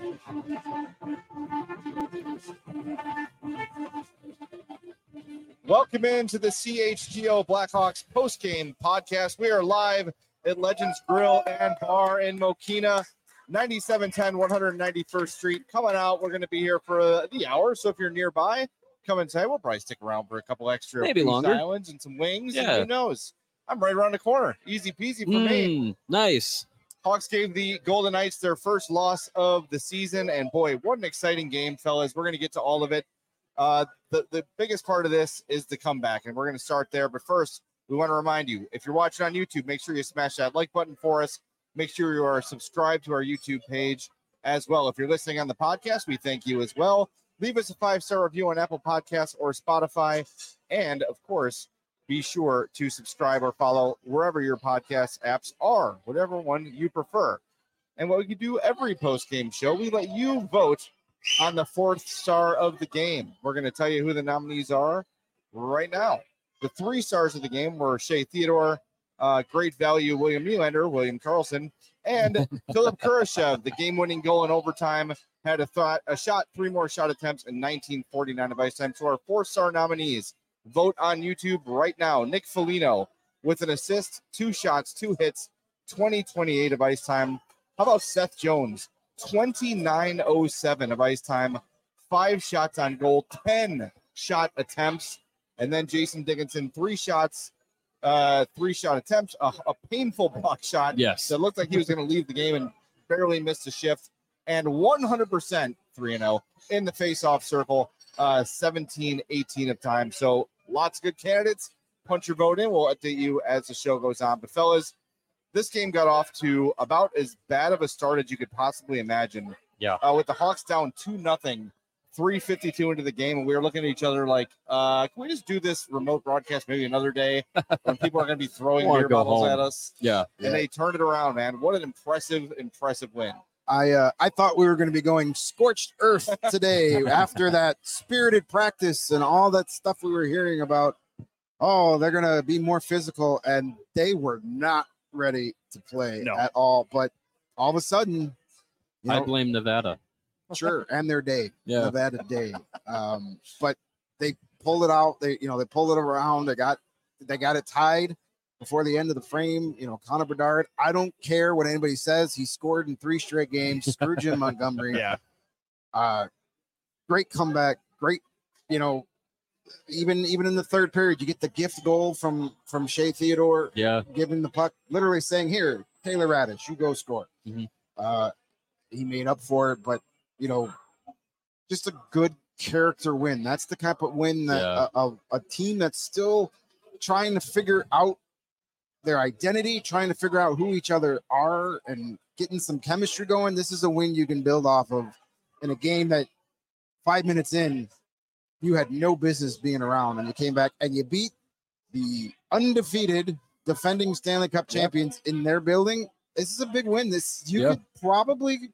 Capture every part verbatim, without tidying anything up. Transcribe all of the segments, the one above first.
Welcome into the C H G O Blackhawks postgame podcast. We are live at Legends Grill and Bar in Mokina, ninety-seven ten one ninety-first Street. Coming out, we're going to be here for uh, the hour, so if you're nearby, come and say. We'll probably stick around for a couple extra maybe longer islands and some wings. Yeah. And who knows? I'm right around the corner. Easy peasy for mm, me. Nice. Hawks gave the Golden Knights their first loss of the season, and boy, what an exciting game, fellas. We're going to get to all of it. Uh, the, the biggest part of this is the comeback, and we're going to start there. But first, we want to remind you, if you're watching on YouTube, make sure you smash that like button for us. Make sure you are subscribed to our YouTube page as well. If you're listening on the podcast, we thank you as well. Leave us a five-star review on Apple Podcasts or Spotify. And, of course, be sure to subscribe or follow wherever your podcast apps are, whatever one you prefer. And what we can do every post-game show, we let you vote on the fourth star of the game. We're going to tell you who the nominees are right now. The three stars of the game were Shea Theodore, uh, great value William Nylander, William Karlsson, and Philip Kurashev. The game-winning goal in overtime, had a thought, a shot, three more shot attempts in nineteen forty-nine of ice time. So our four-star nominees, vote on YouTube right now. Nick Foligno with an assist, two shots, two hits, twenty twenty-eight of ice time. How about Seth Jones? twenty-nine oh seven of ice time, five shots on goal, ten shot attempts. And then Jason Dickinson, three shots, uh, three shot attempts, a, a painful block shot. Yes. That looked like he was going to leave the game and barely missed a shift. And one hundred percent three and oh in the face-off circle, uh, seventeen eighteen of time. So lots of good candidates. Punch your vote in. We'll update you as the show goes on. But fellas, this game got off to about as bad of a start as you could possibly imagine. Yeah. Uh, with the Hawks down two nothing, three fifty-two into the game, and we were looking at each other like, uh, can we just do this remote broadcast maybe another day when people are going to be throwing beer bottles home. at us? Yeah. And they turned it around, man. What an impressive, impressive win. I uh, I thought we were going to be going scorched earth today after that spirited practice and all that stuff we were hearing about. Oh, they're going to be more physical, and they were not ready to play No. at all. But all of a sudden, you I know, blame Nevada. sure, and their day, Yeah. Nevada day. Um, but they pulled it out. They you know they pulled it around. They got they got it tied before the end of the frame. You know, Connor Bedard. I don't care what anybody says. He scored in three straight games. Screw Jim Montgomery. Yeah. Uh, great comeback. Great. You know, even even in the third period, you get the gift goal from from Shea Theodore. Yeah. Giving the puck, literally saying, "Here, Taylor Radish, you go score." Mhm. Uh, he made up for it, but you know, just a good character win. That's the type of win that Yeah. a, a, a team that's still trying to figure out their identity, trying to figure out who each other are, and getting some chemistry going. This is a win you can build off of in a game that five minutes in, you had no business being around, and you came back and you beat the undefeated defending Stanley Cup champions in their building. This is a big win. This you Yeah. could probably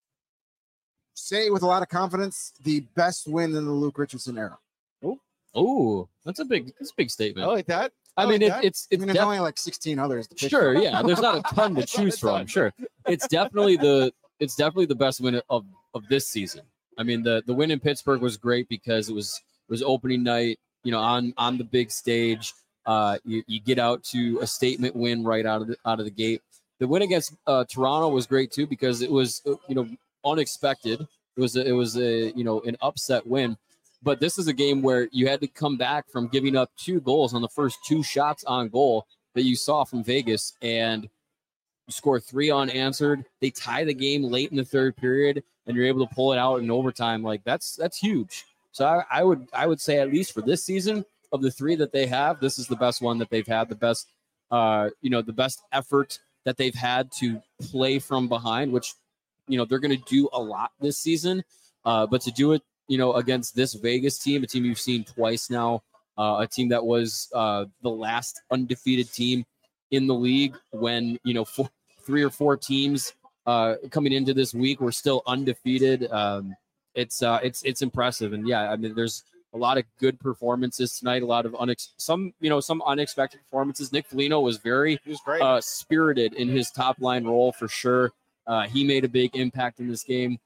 say with a lot of confidence the best win in the Luke Richardson era. Oh, that's a big that's a big statement. I like that. I, I mean, like it, that. it's I it's mean, there's def- only like sixteen others. To pick sure, from. yeah. There's not a ton to choose from. Sure, it's definitely the it's definitely the best win of of this season. I mean, the the win in Pittsburgh was great because it was it was opening night. You know, on on the big stage, uh, you, you get out to a statement win right out of the out of the gate. The win against uh, Toronto was great too because it was uh, you know unexpected. It was a, it was a you know an upset win. But this is a game where you had to come back from giving up two goals on the first two shots on goal that you saw from Vegas, and you score three unanswered. They tie the game late in the third period, and you're able to pull it out in overtime. Like that's that's huge. So I, I would I would say at least for this season of the three that they have, this is the best one that they've had. The best, uh, you know, the best effort that they've had to play from behind, which you know they're going to do a lot this season. Uh, but to do it, you know, against this Vegas team, a team you've seen twice now, uh, a team that was uh, the last undefeated team in the league when, you know, four, three or four teams uh, coming into this week were still undefeated. Um, it's uh, it's it's impressive. And yeah, I mean, there's a lot of good performances tonight, a lot of unex- some, you know, some unexpected performances. Nick Foligno was very He was great. uh, spirited in his top line role for sure. Uh, he made a big impact in this game.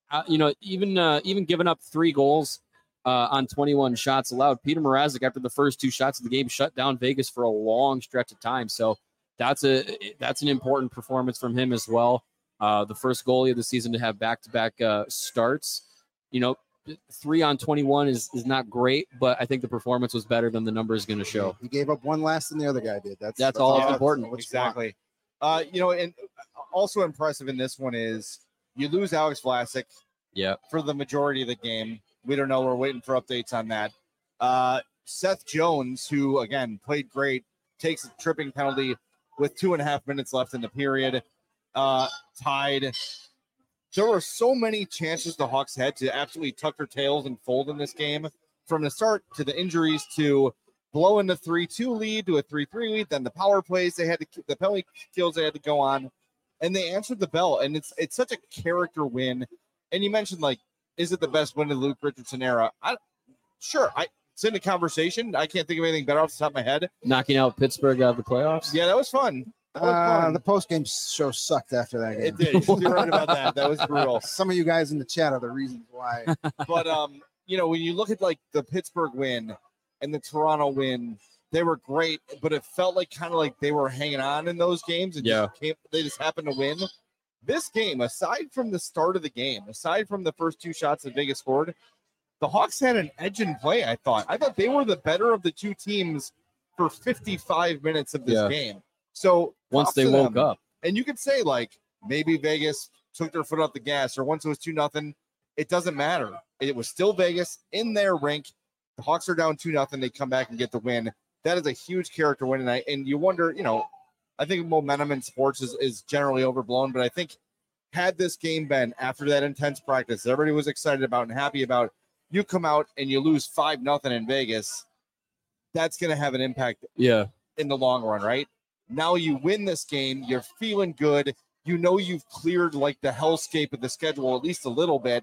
uh, you know, even uh, even giving up three goals uh, on twenty-one shots allowed, Peter Mrazek, after the first two shots of the game, shut down Vegas for a long stretch of time. So that's a that's an important performance from him as well. Uh, the first goalie of the season to have back-to-back uh, starts. You know, three on twenty-one is, is not great, but I think the performance was better than the number is going to show. He gave up one less than the other guy did. That's That's, that's all yeah, important. Exactly. Uh, you know, and also impressive in this one is you lose Alex Vlasic yeah. for the majority of the game. We don't know. We're waiting for updates on that. Uh, Seth Jones, who, again, played great, takes a tripping penalty with two and a half minutes left in the period. Uh, tied. There were so many chances the Hawks had to absolutely tuck their tails and fold in this game, from the start to the injuries to blowing the three two lead to a three three lead, then the power plays they had to, the penalty kills they had to go on, and they answered the bell. And it's it's such a character win. And you mentioned, like, is it the best win of the Luke Richardson era? I sure, I it's in the conversation. I can't think of anything better off the top of my head. Knocking out Pittsburgh out of the playoffs. Yeah, that was fun. That was Uh, fun. the post game show sucked after that game. It did. You're right about that. That was brutal. Some of you guys in the chat are the reasons why. But um, you know, when you look at like the Pittsburgh win and the Toronto win, they were great, but it felt like kind of like they were hanging on in those games and yeah. just came, they just happened to win. This game, aside from the start of the game, aside from the first two shots that Vegas scored, the Hawks had an edge in play. I thought. I thought they were the better of the two teams for fifty-five minutes of this yeah. game. So once they woke them. up, and you could say like maybe Vegas took their foot off the gas, or once it was two nothing, it doesn't matter. It was still Vegas in their rink. The Hawks are down two nothing. They come back and get the win. That is a huge character win tonight. And you wonder, you know, I think momentum in sports is, is generally overblown, but I think had this game been after that intense practice that everybody was excited about and happy about, you come out and you lose five nothing in Vegas, that's going to have an impact yeah, in the long run, right? Now you win this game, you're feeling good. You know you've cleared like the hellscape of the schedule at least a little bit.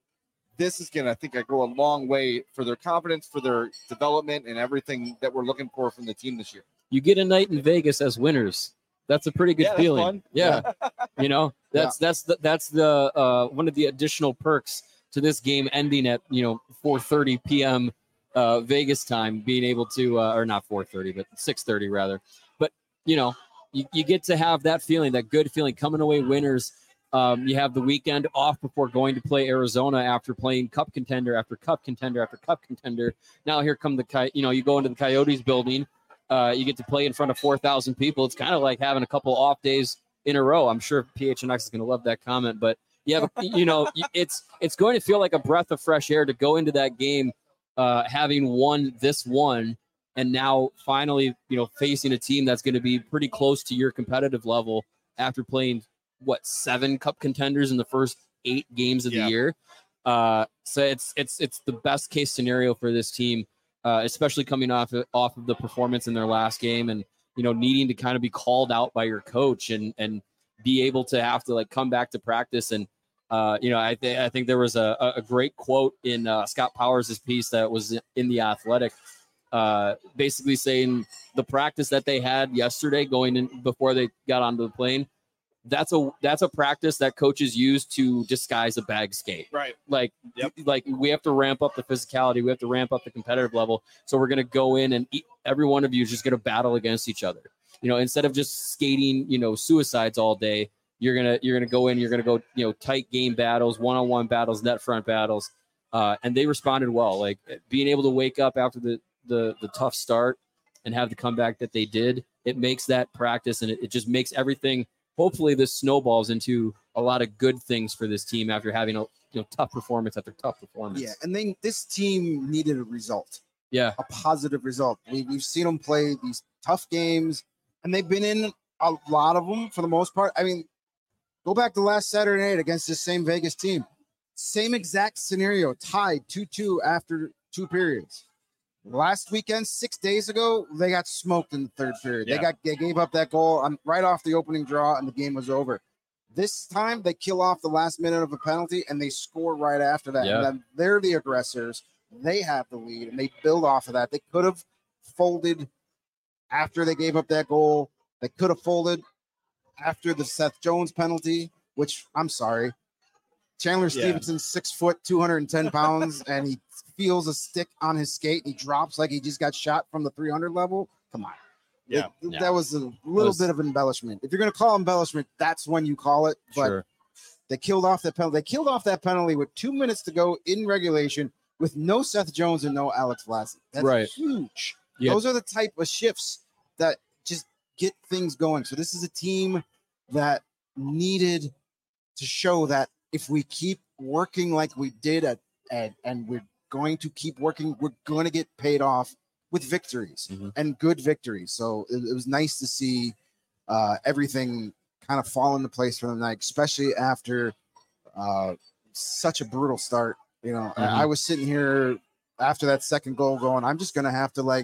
This is going to, I think, I go a long way for their confidence, for their development, and everything that we're looking for from the team this year. You get a night in Vegas as winners. That's a pretty good Yeah, that's feeling. fun. Yeah, you know, that's yeah. that's the, that's the uh, one of the additional perks to this game ending at you know four thirty p.m. Uh, Vegas time, being able to, uh, or not four thirty, but six thirty rather. But you know, you, you get to have that feeling, that good feeling, coming away winners. Um, you have the weekend off before going to play Arizona after playing cup contender after cup contender after cup contender. Now here come the, you know, you go into the Coyotes building. Uh, you get to play in front of four thousand people. It's kind of like having a couple off days in a row. I'm sure P H N X is going to love that comment, but yeah, you know, it's it's going to feel like a breath of fresh air to go into that game, uh, having won this one, and now finally, you know, facing a team that's going to be pretty close to your competitive level after playing what seven cup contenders in the first eight games of yeah. the year. Uh, so it's it's it's the best case scenario for this team. Uh, especially coming off of, off of the performance in their last game, and you know needing to kind of be called out by your coach and and be able to have to like come back to practice. And uh, you know I th- I think there was a, a great quote in uh, Scott Powers' piece that was in The Athletic, uh, basically saying the practice that they had yesterday going in before they got onto the plane. That's a that's a practice that coaches use to disguise a bag skate. Right. Like, yep. like we have to ramp up the physicality. We have to ramp up the competitive level. So we're going to go in and eat, every one of you is just going to battle against each other. You know, instead of just skating, you know, suicides all day, you're going to, you're going to go in, you're going to go, you know, tight game battles, one-on-one battles, net front battles. Uh, and they responded well, like being able to wake up after the, the, the tough start and have the comeback that they did. It makes that practice, and it, it just makes everything. Hopefully this snowballs into a lot of good things for this team after having a you know tough performance after tough performance. Yeah, and then this team needed a result. Yeah, a positive result. We, we've seen them play these tough games, and they've been in a lot of them for the most part. I mean, go back to last Saturday night against this same Vegas team. Same exact scenario, tied two two after two periods. Last weekend, six days ago, they got smoked in the third period. Yeah. They got they gave up that goal on, right off the opening draw, and the game was over. This time, they kill off the last minute of a penalty, and they score right after that. Yeah. And then they're the aggressors. They have the lead, and they build off of that. They could have folded after they gave up that goal. They could have folded after the Seth Jones penalty, which I'm sorry. Chandler Yeah. Stevenson's six foot, two hundred ten pounds, and he feels a stick on his skate. And he drops like he just got shot from the three hundred level. Come on. Yeah. It- Yeah. That was a little was- bit of embellishment. If you're going to call embellishment, that's when you call it. But Sure. they killed off that penalty. They killed off that penalty with two minutes to go in regulation with no Seth Jones and no Alex Vlasic. That's Right. huge. Yeah. Those are the type of shifts that just get things going. So this is a team that needed to show that if we keep working like we did at, at and we're going to keep working, we're going to get paid off with victories Mhm. and good victories. So it, it was nice to see uh, everything kind of fall into place for them, like, especially after uh, such a brutal start. You know, I, Mhm. I was sitting here after that second goal going, I'm just going to have to like,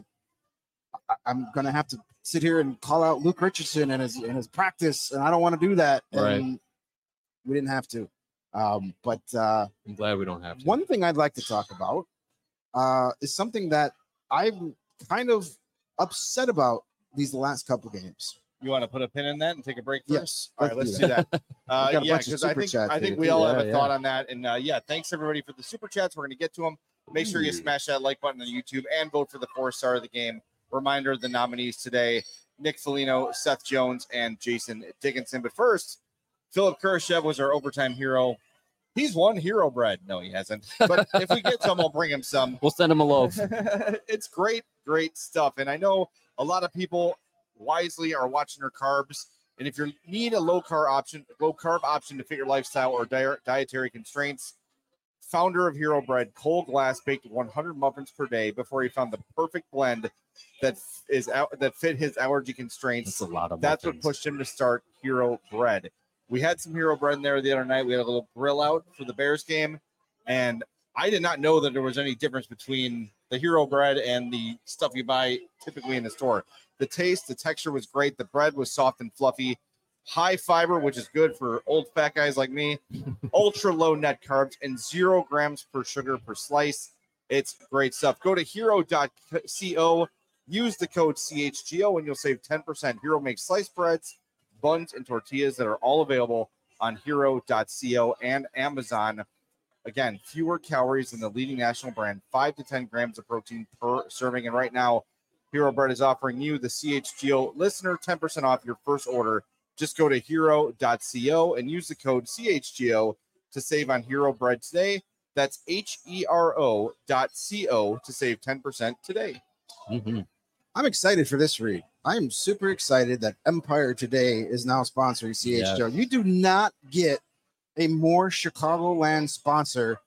I- I'm going to have to sit here and call out Luke Richardson and his, and his practice. And I don't want to do that. Right. And we didn't have to. Um, but uh, I'm glad we don't have to. one thing I'd like to talk about uh, is something that I'm kind of upset about these last couple games. You want to put a pin in that and take a break first? Yes, All right, let's let's do do that. Uh, got a yeah, bunch of because I super think chats I think here, we too. all Yeah, have a yeah. thought on that. And uh, yeah, thanks everybody for the super chats. We're going to get to them. Make sure you Ooh. smash that like button on YouTube and vote for the four star of the game. Reminder of the nominees today: Nick Foligno, Seth Jones, and Jason Dickinson. But first, Philip Kurashev was our overtime hero. He's won Hero Bread. No, he hasn't. But if we get some, I'll bring him some. We'll send him a loaf. It's great, great stuff. And I know a lot of people wisely are watching their carbs. And if you need a low carb option, low carb option to fit your lifestyle or di- dietary constraints, founder of Hero Bread, Cole Glass baked one hundred muffins per day before he found the perfect blend that is out that fit his allergy constraints. That's a lot of That's what muffins. pushed him to start Hero Bread. We had some Hero Bread in there the other night. We had a little grill out for the Bears game, and I did not know that there was any difference between the Hero Bread and the stuff you buy typically in the store. The taste, the texture was great. The bread was soft and fluffy, high fiber, which is good for old fat guys like me, ultra low net carbs, and zero grams per sugar per slice. It's great stuff. Go to hero dot co, use the code C H G O, and you'll save ten percent. Hero makes sliced breads, buns, and tortillas that are all available on hero dot co and Amazon. Again, fewer calories than the leading national brand, five to ten grams of protein per serving. And right now, Hero Bread is offering you, the C H G O listener, ten percent off your first order. Just go to hero dot co and use the code C H G O to save on Hero Bread today. That's H E R O dot C O to save ten percent today. Mhm. I'm excited for this read. I am super excited that Empire Today is now sponsoring C H G O. You do not get a more Chicagoland sponsor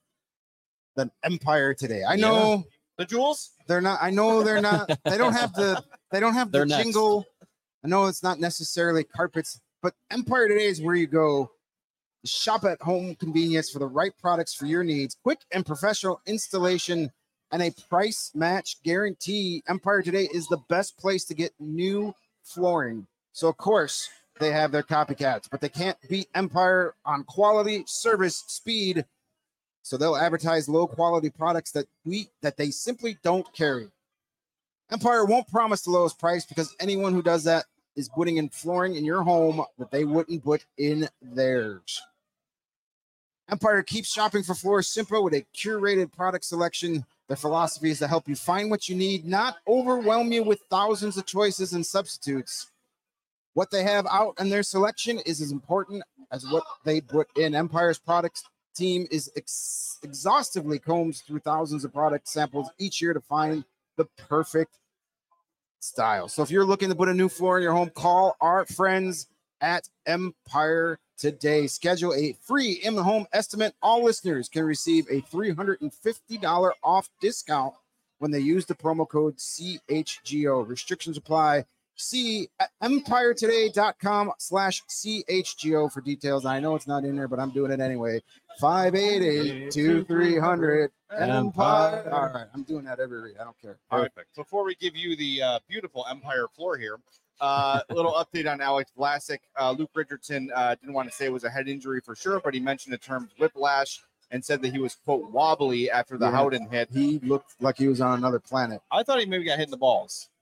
than Empire Today. I know The Jewels? they're not. I know they're not. They don't have the. They don't have the They're next. jingle. I know it's not necessarily carpets, but Empire Today is where you go. Shop at home convenience for the right products for your needs. Quick and professional installation and a price match guarantee. Empire Today is the best place to get new flooring. So, of course, they have their copycats, but they can't beat Empire on quality, service, speed. So they'll advertise low quality products that we that they simply don't carry. Empire won't promise the lowest price because anyone who does that is putting in flooring in your home that they wouldn't put in theirs. Empire keeps shopping for floors simple with a curated product selection. Their philosophy is to help you find what you need, not overwhelm you with thousands of choices and substitutes. What they have out in their selection is as important as what they put in. Empire's product team is ex- exhaustively combs through thousands of product samples each year to find the perfect style. So if you're looking to put a new floor in your home, call our friends at Empire Today. Schedule a free in-home estimate. All listeners can receive a three hundred fifty dollars off discount when they use the promo code C H G O. Restrictions apply. See at empire today dot com slash C H G O for details. I know it's not in there, but I'm doing it anyway. five eight eight, two three hundred Empire. All right, I'm doing that every week. I don't care. Perfect. Before we give you the uh, beautiful Empire floor here, uh, a little update on Alex Vlasic. Uh, Luke Richardson uh, didn't want to say it was a head injury for sure, but he mentioned the term whiplash and said that he was, quote, wobbly after the Yeah. Howden hit. He looked like he was on another planet. I thought he maybe got hit in the balls.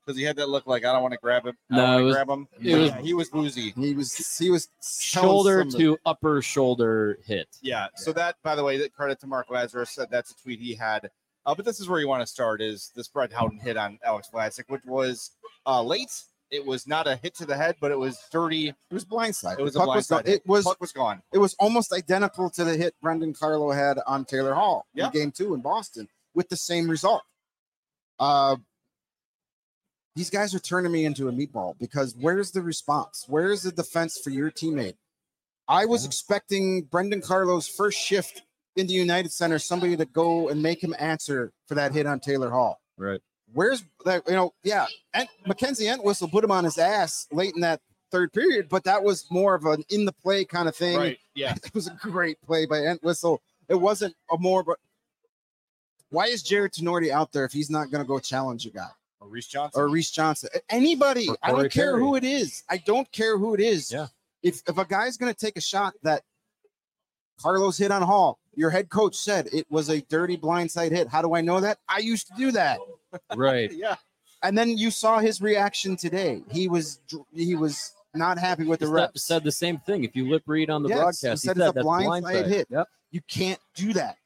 Because he had that look like I don't want to grab him. I No, don't it want was- to grab him. it was- yeah, he was woozy. He was he was telling Shoulder some of- to upper shoulder hit. Yeah. So that, by the way, that credit to Mark Lazarus. Said that's a tweet he had. Uh, but this is where you want to start: is this Brett Howden hit on Alex Vlasic, which was uh, late. It was not a hit to the head, but it was dirty. It was blindside. It was The a puck blindside gone. hit. It was Puck was gone. it was almost identical to the hit Brendan Carlo had on Taylor Hall Yeah. in game two in Boston with the same result. Uh, these guys are turning me into a meatball because where's the response? Where's the defense for your teammate? I was expecting Brendan Carlo's first shift in the United Center, somebody to go and make him answer for that hit on Taylor Hall. Right. Where's that? You know, yeah. And Mackenzie Entwistle put him on his ass late in that third period, but that was more of an in the play kind of thing. Right. Yeah. It was a great play by Entwistle. It wasn't a more, but why is Jared Tenorti out there if he's not going to go challenge a guy Or Reese Johnson. or Reese Johnson? Anybody. Or I don't Corey care Perry. who it is. I don't care who it is. Yeah. If if a guy's going to take a shot that Carlos hit on Hall, your head coach said it was a dirty blindside hit. How do I know that? I used to do that. Right. yeah. And then you saw his reaction today. He was he was not happy with the He refs. said the same thing. If you lip read on the Yes, broadcast, he he said said it's a that's blindside blindside hit. Yep. You can't do that.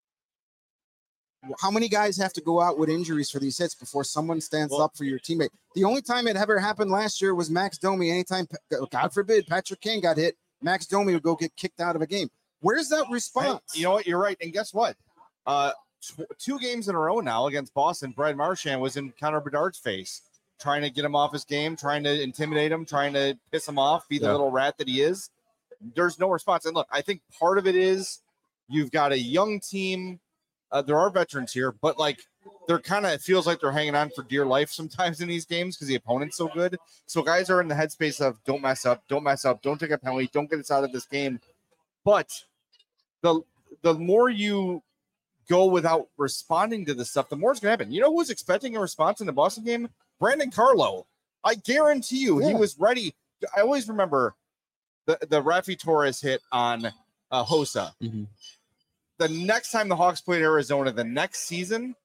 How many guys have to go out with injuries for these hits before someone stands Well- up for your teammate? The only time it ever happened last year was Max Domi. Anytime, God forbid, Patrick Kane got hit, Max Domi would go get kicked out of a game. Where's that Hey, response? you know what? You're right. And guess what? Uh, tw- two games in a row now against Boston, Brad Marchand was in Connor Bedard's face, trying to get him off his game, trying to intimidate him, trying to piss him off, be the Yeah. little rat that he is. There's no response. And look, I think part of it is you've got a young team. Uh, there are veterans here, but like they're kind of, it feels like they're hanging on for dear life sometimes in these games because the opponent's so good. So guys are in the headspace of don't mess up, don't mess up, don't take a penalty, don't get us out of this game. But the the more you go without responding to this stuff, the more it's gonna happen. You know who was expecting a response in the Boston game? Brandon Carlo. I guarantee you, he Yeah. was ready. I always remember the the Rafi Torres hit on uh, Hossa. Mhm. The next time the Hawks played Arizona, the next season,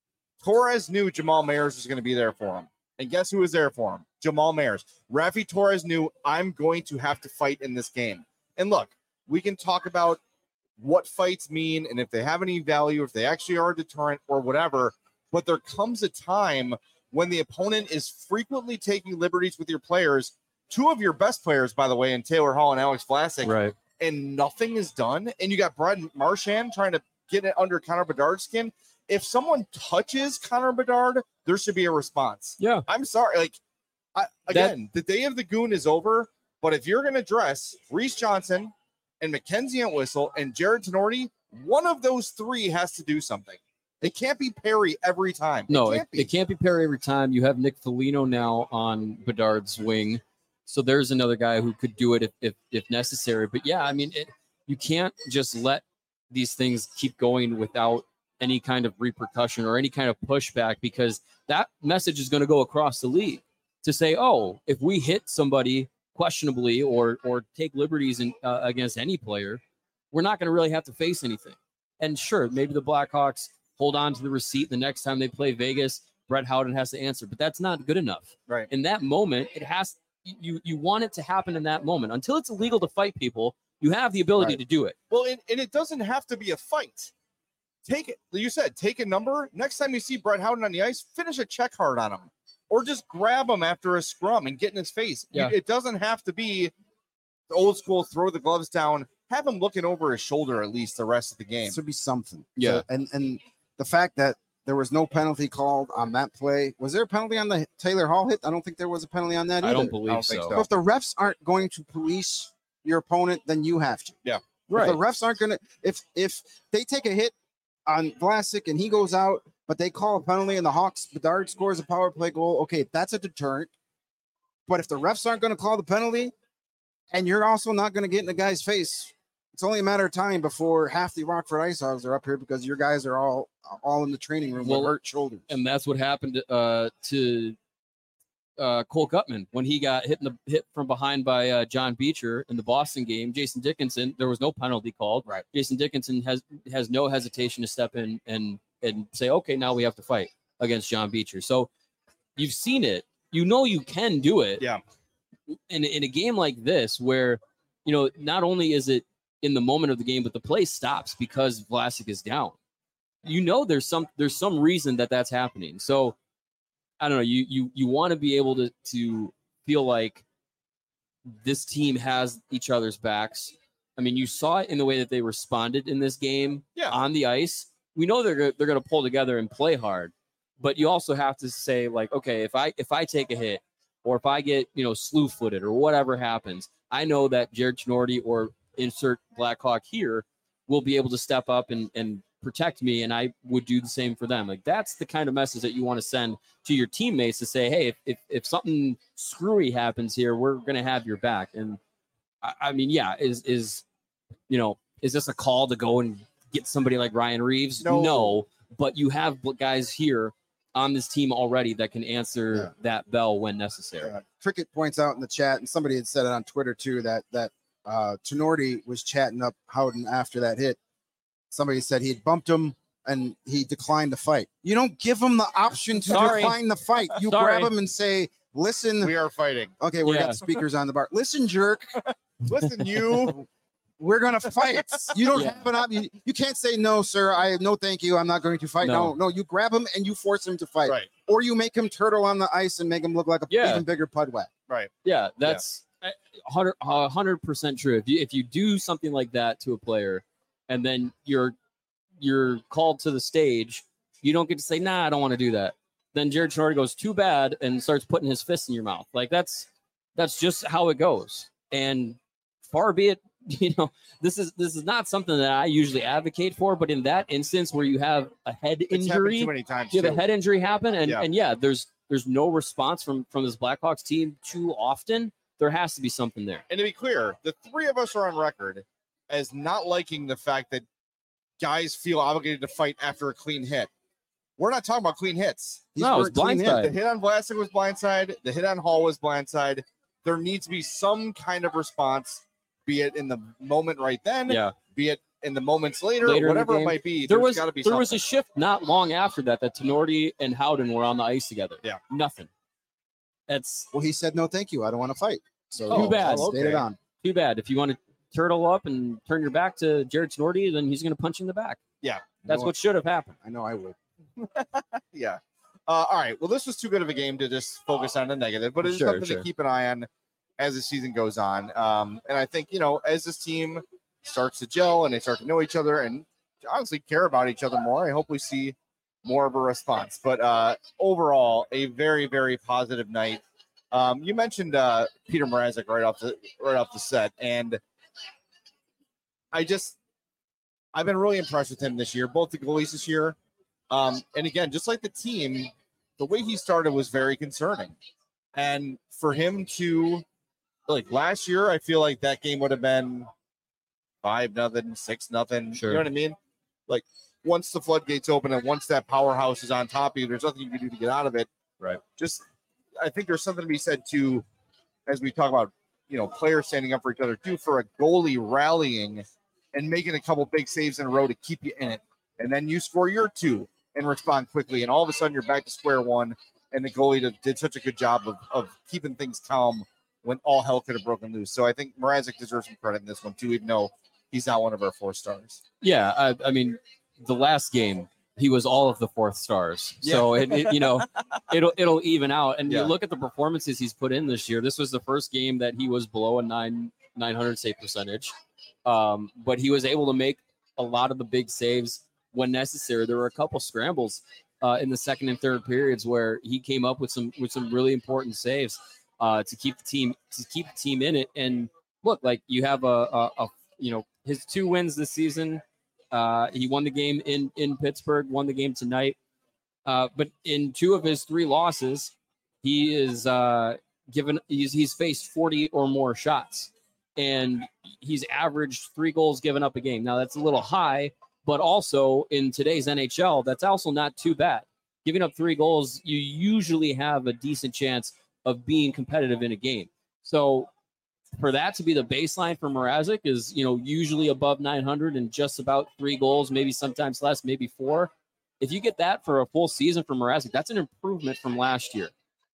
Torres knew Jamal Mayers was going to be there for him. And guess who was there for him? Jamal Mayers. Rafi Torres knew I'm going to have to fight in this game. And look, we can talk about what fights mean and if they have any value, if they actually are a deterrent or whatever. But there comes a time when the opponent is frequently taking liberties with your players. Two of your best players, by the way, in Taylor Hall and Alex Vlasic, Right. and nothing is done. And you got Brad Marchand trying to get it under Connor Bedard's skin. If someone touches Connor Bedard, there should be a response. Yeah. I'm sorry. Like, I, again, the day of the goon is over. But if you're going to dress Reese Johnson and Mackenzie Entwistle and Jared Tenorti, one of those three has to do something. It can't be Perry every time. No, it it, can't be. it can't be Perry every time. You have Nick Foligno now on Bedard's wing. So there's another guy who could do it if if, if necessary. But yeah, I mean, it, you can't just let these things keep going without any kind of repercussion or any kind of pushback, because that message is going to go across the league to say, oh, if we hit somebody questionably or or take liberties in, uh, against any player, we're not going to really have to face anything. And sure, maybe the Blackhawks hold on to the receipt the next time they play Vegas. Brett Howden has to answer, but that's not good enough. Right. In that moment, it has you you want it to happen in that moment. Until it's illegal to fight people, you have the ability Right. to do it. Well, and, and it doesn't have to be a fight. Take it. You said take a number. Next time you see Brett Howden on the ice, finish a check hard on him, or just grab him after a scrum and get in his face. You- Yeah. It doesn't have to be the old school. Throw the gloves down. Have him looking over his shoulder at least the rest of the game. This would be something. Yeah. So- and and the fact that there was no penalty called on that play. Was there a penalty on the Taylor Hall hit? I don't think there was a penalty on that I either. don't believe don't think so. so. So if the refs aren't going to police your opponent, then you have to. Yeah. Right. If the refs aren't going to, if if they take a hit on Vlasic and he goes out, but they call a penalty and the Hawks, Bedard scores a power play goal, okay, that's a deterrent. But if the refs aren't going to call the penalty and you're also not going to get in the guy's face, it's only a matter of time before half the Rockford Ice Hogs are up here because your guys are all all in the training room Well, with hurt shoulders. And that's what happened uh, to uh, Cole Gutman when he got hit in the hit from behind by uh, John Beecher in the Boston game. Jason Dickinson, there was no penalty called. Right. Jason Dickinson has has no hesitation to step in and and say, okay, now we have to fight against John Beecher. So You've seen it. You know you can do it. Yeah. In, in a game like this where, you know, not only is it in the moment of the game, but the play stops because Vlasic is down. You know there's some there's some reason that that's happening. So, I don't know. You you you want to be able to to feel like this team has each other's backs. I mean, you saw it in the way that they responded in this game yeah. on the ice. We know they're they're going to pull together and play hard, but you also have to say like, okay, if I if I take a hit or if I get, you know, slew-footed or whatever happens, I know that Jared Chinordi or insert Blackhawk here will be able to step up and and protect me, and I would do the same for them. Like, that's the kind of message that you want to send to your teammates to say, hey, if if, if something screwy happens here, we're going to have your back. And I, I mean, yeah, is is you know, is this a call to go and get somebody like Ryan Reeves? No, no, but you have guys here on this team already that can answer yeah. that bell when necessary. Uh, Cricket points out in the chat, and somebody had said it on Twitter too, that that uh, Chinordi was chatting up Howden after that hit. Somebody said he had bumped him and he declined the fight. You don't give him the option to Sorry. decline the fight. You Sorry. grab him and say, listen. We are fighting. Okay, we yeah. got speakers on the bar. Listen, jerk. Listen, you. We're going to fight. You don't yeah. have an option. You, you can't say, no, sir. I no, thank you. I'm not going to fight. No. no, no. You grab him and you force him to fight. Right. Or you make him turtle on the ice and make him look like a yeah. even bigger pud whack. Right. Yeah, that's yeah. one hundred percent true. If you if you do something like that to a player and then you're you're called to the stage, you don't get to say, nah, I don't want to do that. Then Jared Chinordi goes, too bad, and starts putting his fist in your mouth. Like, that's that's just how it goes. And far be it, you know, this is this is not something that I usually advocate for, but in that instance where you have a head it's injury, too many times you have too. a head injury happen, and yeah. and yeah, there's there's no response from from this Blackhawks team too often. There has to be something there. And to be clear, the three of us are on record as not liking the fact that guys feel obligated to fight after a clean hit. We're not talking about clean hits. These no, it's blindside. The hit on Vlasic was blindside. The hit on Hall was blindside. There needs to be some kind of response, be it in the moment right then, yeah. be it in the moments later, later whatever it might be. There was gotta be there something. was a shift not long after that that Chinordi and Howden were on the ice together. Yeah, nothing. That's well, he said no, thank you. I don't want to fight. So too bad. Oh, okay. Stayed it on. Too bad. If you want to turtle up and turn your back to Jared Chinordi, then he's going to punch you in the back. Yeah, that's what should have happened. I know I would. yeah. Uh, all right. Well, this was too good of a game to just focus on the negative, but it's sure, something sure. to keep an eye on as the season goes on. Um, and I think, you know, as this team starts to gel and they start to know each other and honestly care about each other more, I hope we see more of a response. But uh, overall, a very, very positive night. Um, you mentioned uh, Peter Mrazek right off the right off the set, and I just I've been really impressed with him this year, both the goalies this year. Um, and again, just like the team, the way he started was very concerning. And for him to, like last year, I feel like that game would have been five nothing, six nothing. Sure. You know what I mean? Like once the floodgates open and once that powerhouse is on top of you, there's nothing you can do to get out of it. Right. Just, I think there's something to be said too, as we talk about, you know, players standing up for each other too, for a goalie rallying and making a couple big saves in a row to keep you in it. And then you score your two and respond quickly. And all of a sudden you're back to square one. And the goalie did, did such a good job of, of keeping things calm when all hell could have broken loose. So I think Mrazek deserves some credit in this one too, even though he's not one of our four stars. Yeah. I, I mean, the last game, he was all of the fourth stars. Yeah. So it, it, you know, it'll, it'll even out. And yeah. you look at the performances he's put in this year. This was the first game that he was below a nine, nine hundred save percentage. Um, but he was able to make a lot of the big saves when necessary. There were a couple scrambles uh, in the second and third periods where he came up with some, with some really important saves uh, to keep the team, to keep the team in it. And look, like you have a, a, a you know, his two wins this season. Uh, he won the game in, in Pittsburgh, won the game tonight. Uh, but in two of his three losses, he is uh, given, he's, he's faced forty or more shots, and he's averaged three goals given up a game. Now that's a little high, but also in today's N H L, that's also not too bad. Giving up three goals, you usually have a decent chance of being competitive in a game. So for that to be the baseline for Mrazek is, you know, usually above nine hundred and just about three goals, maybe sometimes less, maybe four. If you get that for a full season for Mrazek, that's an improvement from last year.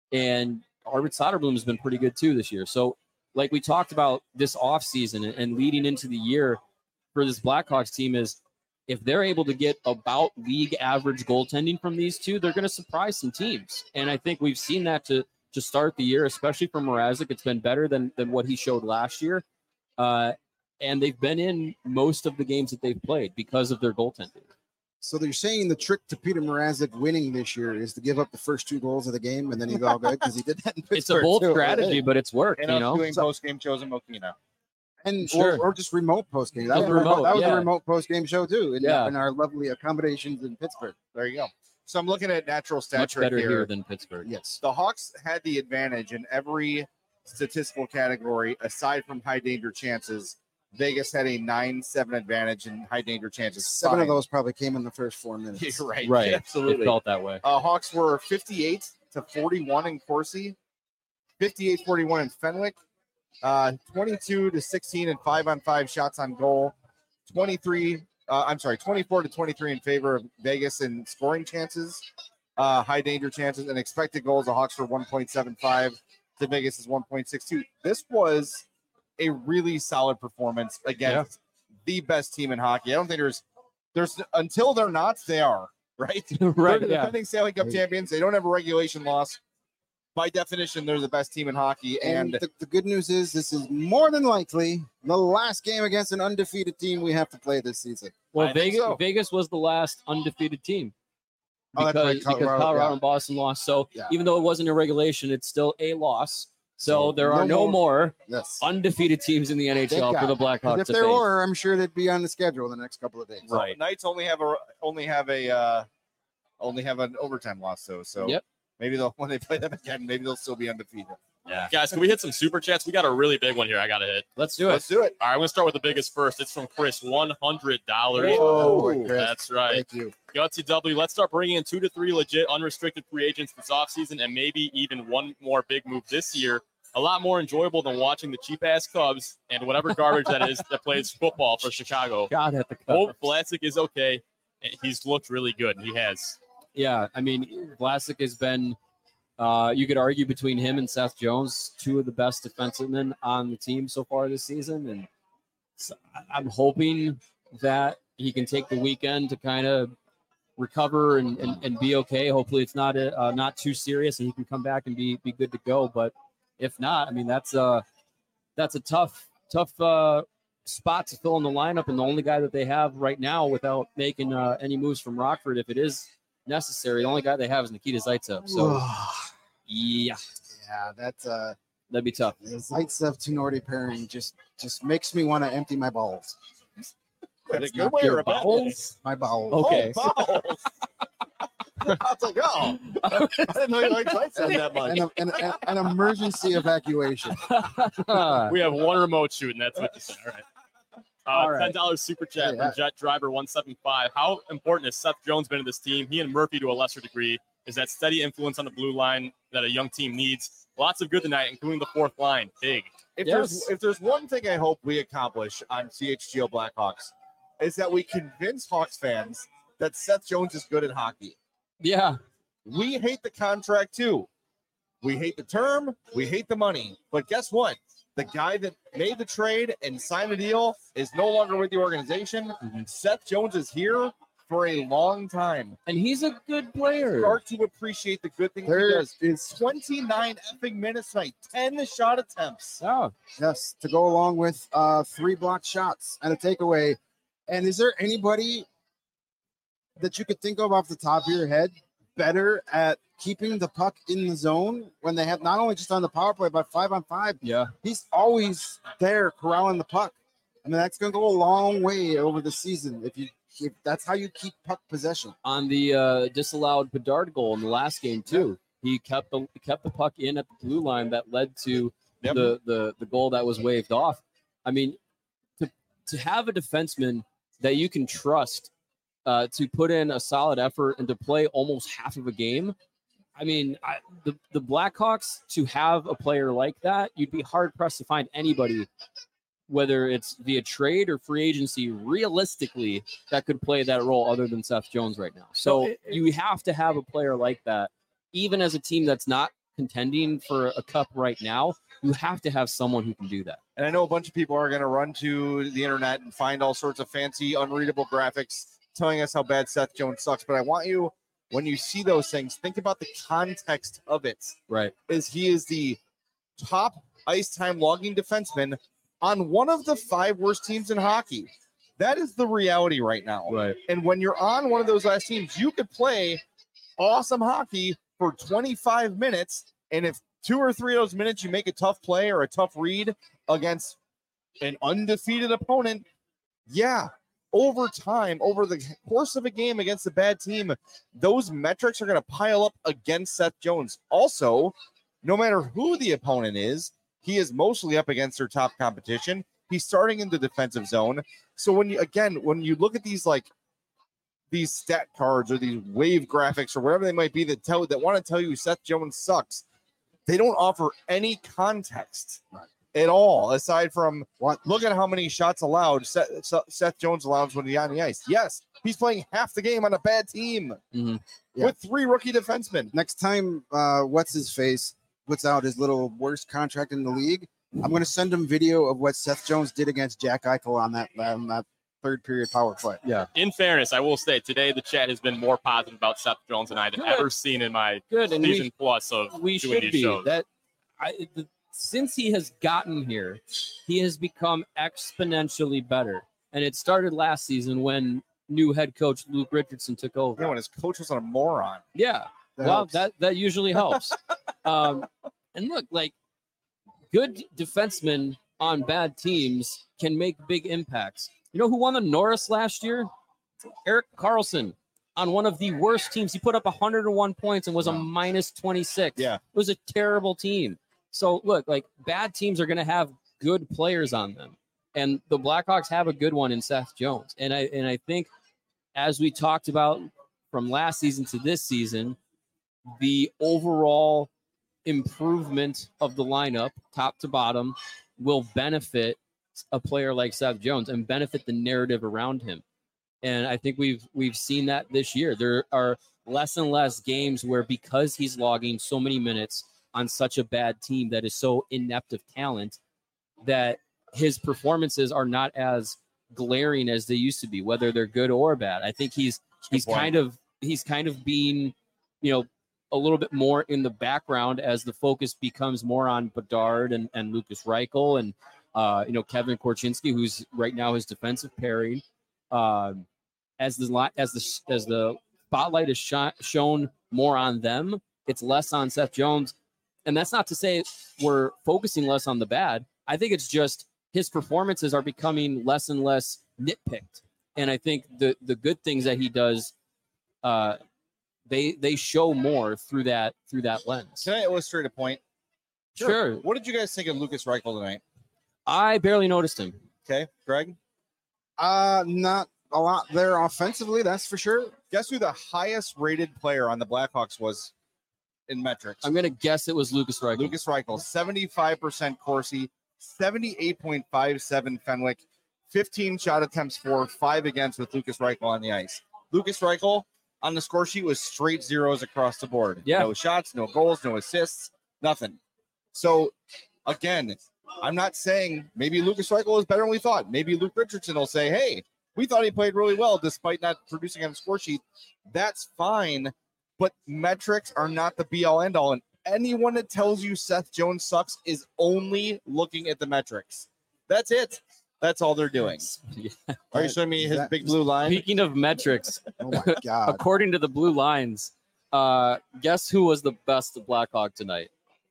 And Arvid Soderblom has been pretty good too this year. So, like we talked about this offseason and, and leading into the year for this Blackhawks team is if they're able to get about league average goaltending from these two, they're going to surprise some teams. And I think we've seen that to to start the year, especially from Mrazek. It's been better than than what he showed last year. Uh, and they've been in most of the games that they've played because of their goaltending. So they're saying the trick to Peter Mrazek winning this year is to give up the first two goals of the game, and then he's all good because he did that in Pittsburgh. It's a bold too. strategy, but it's worked. And you us know, doing So- post-game shows in Mokina. And Sure. or, or just remote post game. That Yeah, was, a remote, remote, that was yeah. a remote post game show too. In, Yeah. in our lovely accommodations in Pittsburgh. There you go. So I'm looking at natural stat much trick better here. here than Pittsburgh. Yes. The Hawks had the advantage in every statistical category aside from high danger chances. Vegas had a nine seven advantage in high danger chances. Seven of Fine. those probably came in the first four minutes. You're right. Right. It Absolutely. felt that way. Uh, Hawks were fifty-eight to forty-one in Corsi, fifty-eight forty-one in Fenwick, uh, twenty-two to sixteen in five on five shots on goal, twenty-three, uh, I'm sorry, twenty-four to twenty-three in favor of Vegas in scoring chances, uh, high danger chances, and expected goals. The Hawks were one point seven five to Vegas is one point six two. This was a really solid performance against the best team in hockey. I don't think there's, there's until they're not, they are. Right, Right, They're the yeah. defending Stanley Cup champions. They don't have a regulation loss. By definition, they're the best team in hockey. And And the, the good news is this is more than likely the last game against an undefeated team we have to play this season. Well, I think Vegas, so. Vegas was the last undefeated team Oh, because, that's right, because Colorado, Colorado yeah. and Boston lost. So Yeah. even though it wasn't a regulation, it's still a loss. So So there no are no more- more Yes. undefeated teams in the N H L Thank for the God. 'Cause Blackhawks if to there face. were, I'm sure they'd be on the schedule the next couple of days. Right. Knights only have a only have a uh, only have an overtime loss though. So Yep. maybe they'll when they play them again, maybe they'll still be undefeated. Yeah. Guys, can we hit some super chats? We got a really big one here. I got to hit. Let's do it. Let's do it. All right, I'm going to start with the biggest first. It's from Chris, one hundred dollars. Whoa, Chris. That's right. Thank you. Gutsy W, let's start bringing in two to three legit unrestricted free agents this offseason and maybe even one more big move this year. A lot more enjoyable than watching the cheap-ass Cubs and whatever garbage that is that plays football for Chicago. God at the Hope cup. Vlasic is okay. He's looked really good. He has. Yeah, I mean, Vlasic has been, uh, you could argue between him and Seth Jones, two of the best defensemen on the team so far this season. And so I- I'm hoping that he can take the weekend to kind of recover and, and, and be okay. Hopefully it's not a, uh, not too serious and he can come back and be, be good to go. But if not, I mean, that's a, that's a tough, tough uh, spot to fill in the lineup. And the only guy that they have right now without making uh, any moves from Rockford, if it is necessary, the only guy they have is Nikita Zaitsev. So, yeah, yeah, that's uh, that'd be tough. the Zaitsev Tenorti pairing just just makes me want to empty my balls. That's a not good way your or a bad way? bowels? My bowels. Okay. Oh, balls. I was like, oh, I didn't know you liked Zaitsev that much. An, an, an, an emergency evacuation. We have one remote shoot, and that's what you said. All right. Uh, All right. ten dollars super chat Hey, from I- Jet Driver one seven five. How important has Seth Jones been to this team? He and Murphy to a lesser degree. Is that steady influence on the blue line that a young team needs? Lots of good tonight, including the fourth line. Big. If Yes. there's if there's one thing I hope we accomplish on C H G O Blackhawks, is that we convince Hawks fans that Seth Jones is good at hockey. Yeah, We hate the contract too. We hate the term. We hate the money. But guess what? The guy that made the trade and signed the deal is no longer with the organization. Mhm. Seth Jones is here for a long time. and he's a good player. Start to appreciate the good things he There does. is twenty-nine effing minutes tonight, ten shot attempts. Oh, yes to go along with uh, three blocked shots and a takeaway. And is there anybody that you could think of off the top of your head better at keeping the puck in the zone when they have not only just on the power play but five on five? yeah. He's always there corralling the puck. I mean, that's going to go a long way over the season if you if that's how you keep puck possession. On the uh, disallowed Bedard goal in the last game too, he kept the kept the puck in at the blue line that led to Yep. the, the the goal that was waved off. I mean, to to have a defenseman that you can trust uh, to put in a solid effort and to play almost half of a game. I mean, I, the the Blackhawks to have a player like that, you'd be hard pressed to find anybody, whether it's via trade or free agency, realistically, that could play that role other than Seth Jones right now. So So it- you have to have a player like that, even as a team that's not contending for a cup right now, you have to have someone who can do that. And I know a bunch of people are going to run to the internet and find all sorts of fancy, unreadable graphics telling us how bad Seth Jones sucks. But I want you, when you see those things, think about the context of it. Right. Is he is the top ice time logging defenseman on one of the five worst teams in hockey. That is the reality right now. Right. And when you're on one of those last teams, you could play awesome hockey for twenty-five minutes. And if two or three of those minutes you make a tough play or a tough read against an undefeated opponent, yeah, over time, over the course of a game against a bad team, those metrics are going to pile up against Seth Jones. Also, no matter who the opponent is, he is mostly up against their top competition. He's starting in the defensive zone. So when you, again, when you look at these, like these stat cards or these wave graphics or whatever they might be that tell, that want to tell you Seth Jones sucks, they don't offer any context right. at all, aside from what, look at how many shots allowed Seth, Seth Jones allows when he's on the ice. Yes, he's playing half the game on a bad team mm-hmm. yeah. with three rookie defensemen. Next time, uh, what's his face puts out his little worst contract in the league, I'm going to send him video of what Seth Jones did against Jack Eichel on that on that third period power play. Yeah. In fairness, I will say today the chat has been more positive about Seth Jones than I've ever seen in my Good. And season we, plus of we doing should these be. shows. That I, the, since he has gotten here, he has become exponentially better. And it started last season when new head coach Luke Richardson took over. Yeah, when his coach was a moron. Yeah. That well, helps. that that usually helps. um, and look, like good defensemen on bad teams can make big impacts. You know who won the Norris last year? Eric Carlson on one of the worst teams. He put up one hundred one points and was a minus twenty-six. Yeah. It was a terrible team. So look, like bad teams are going to have good players on them. And the Blackhawks have a good one in Seth Jones. And I and I think as we talked about from last season to this season, the overall improvement of the lineup, top to bottom, will benefit a player like Seth Jones and benefit the narrative around him. And I think we've we've seen that this year. There are less and less games where, because he's logging so many minutes on such a bad team that is so inept of talent, that his performances are not as glaring as they used to be, whether they're good or bad. I think he's he's kind of he's kind of being, you know, a little bit more in the background as the focus becomes more on Bedard and, and Lucas Reichel and uh, you know, Kevin Korchinski, who's right now his defensive pairing. Um, as the as the as the spotlight is sh- shown more on them, it's less on Seth Jones. And that's not to say we're focusing less on the bad. I think it's just his performances are becoming less and less nitpicked. And I think the the good things that he does, uh, they they show more through that through that lens. Can I illustrate a point? Sure. sure. What did you guys think of Lucas Reichel tonight? I barely noticed him. Okay, Greg? Uh, not a lot there offensively, that's for sure. Guess who the highest rated player on the Blackhawks was in metrics? I'm going to guess it was Lucas Reichel. Lucas Reichel, seventy-five percent Corsi, seventy-eight point five seven Fenwick, fifteen shot attempts for, five against with Lucas Reichel on the ice. Lucas Reichel on the score sheet was straight zeros across the board. Yeah. No shots, no goals, no assists, nothing. So, again, I'm not saying maybe Lucas Reichel is better than we thought. Maybe Luke Richardson will say, hey, we thought he played really well despite not producing on the score sheet. That's fine, but metrics are not the be-all, end-all. And anyone that tells you Seth Jones sucks is only looking at the metrics. That's it. That's all they're doing. Yeah. Are you showing me his That- big blue line? Speaking of metrics, Oh my god. according to the blue lines, uh, guess who was the best Blackhawk tonight?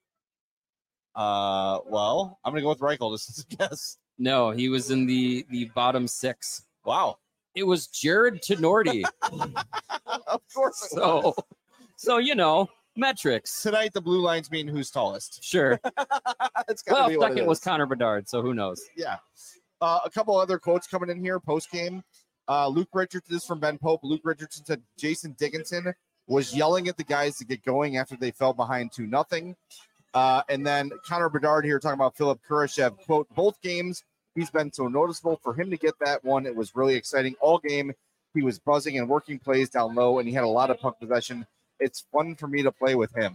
Uh, well, I'm going to go with Reichel just as a guess. No, he was in the the bottom six. Wow. It was Jared Tenorti. Of course it so, was. so you know, metrics. Tonight, the blue lines mean who's tallest. Sure. That's gotta Well, be what it second was is. Connor Bedard, so who knows? Yeah. Uh, a couple other quotes coming in here post game. Uh, Luke Richardson, this is from Ben Pope. Luke Richardson said Jason Dickinson was yelling at the guys to get going after they fell behind two nothing. Uh, and then Connor Bedard here talking about Philip Kurashev. Quote, both games, he's been so noticeable. For him to get that one, it was really exciting. All game, he was buzzing and working plays down low, and he had a lot of puck possession. It's fun for me to play with him.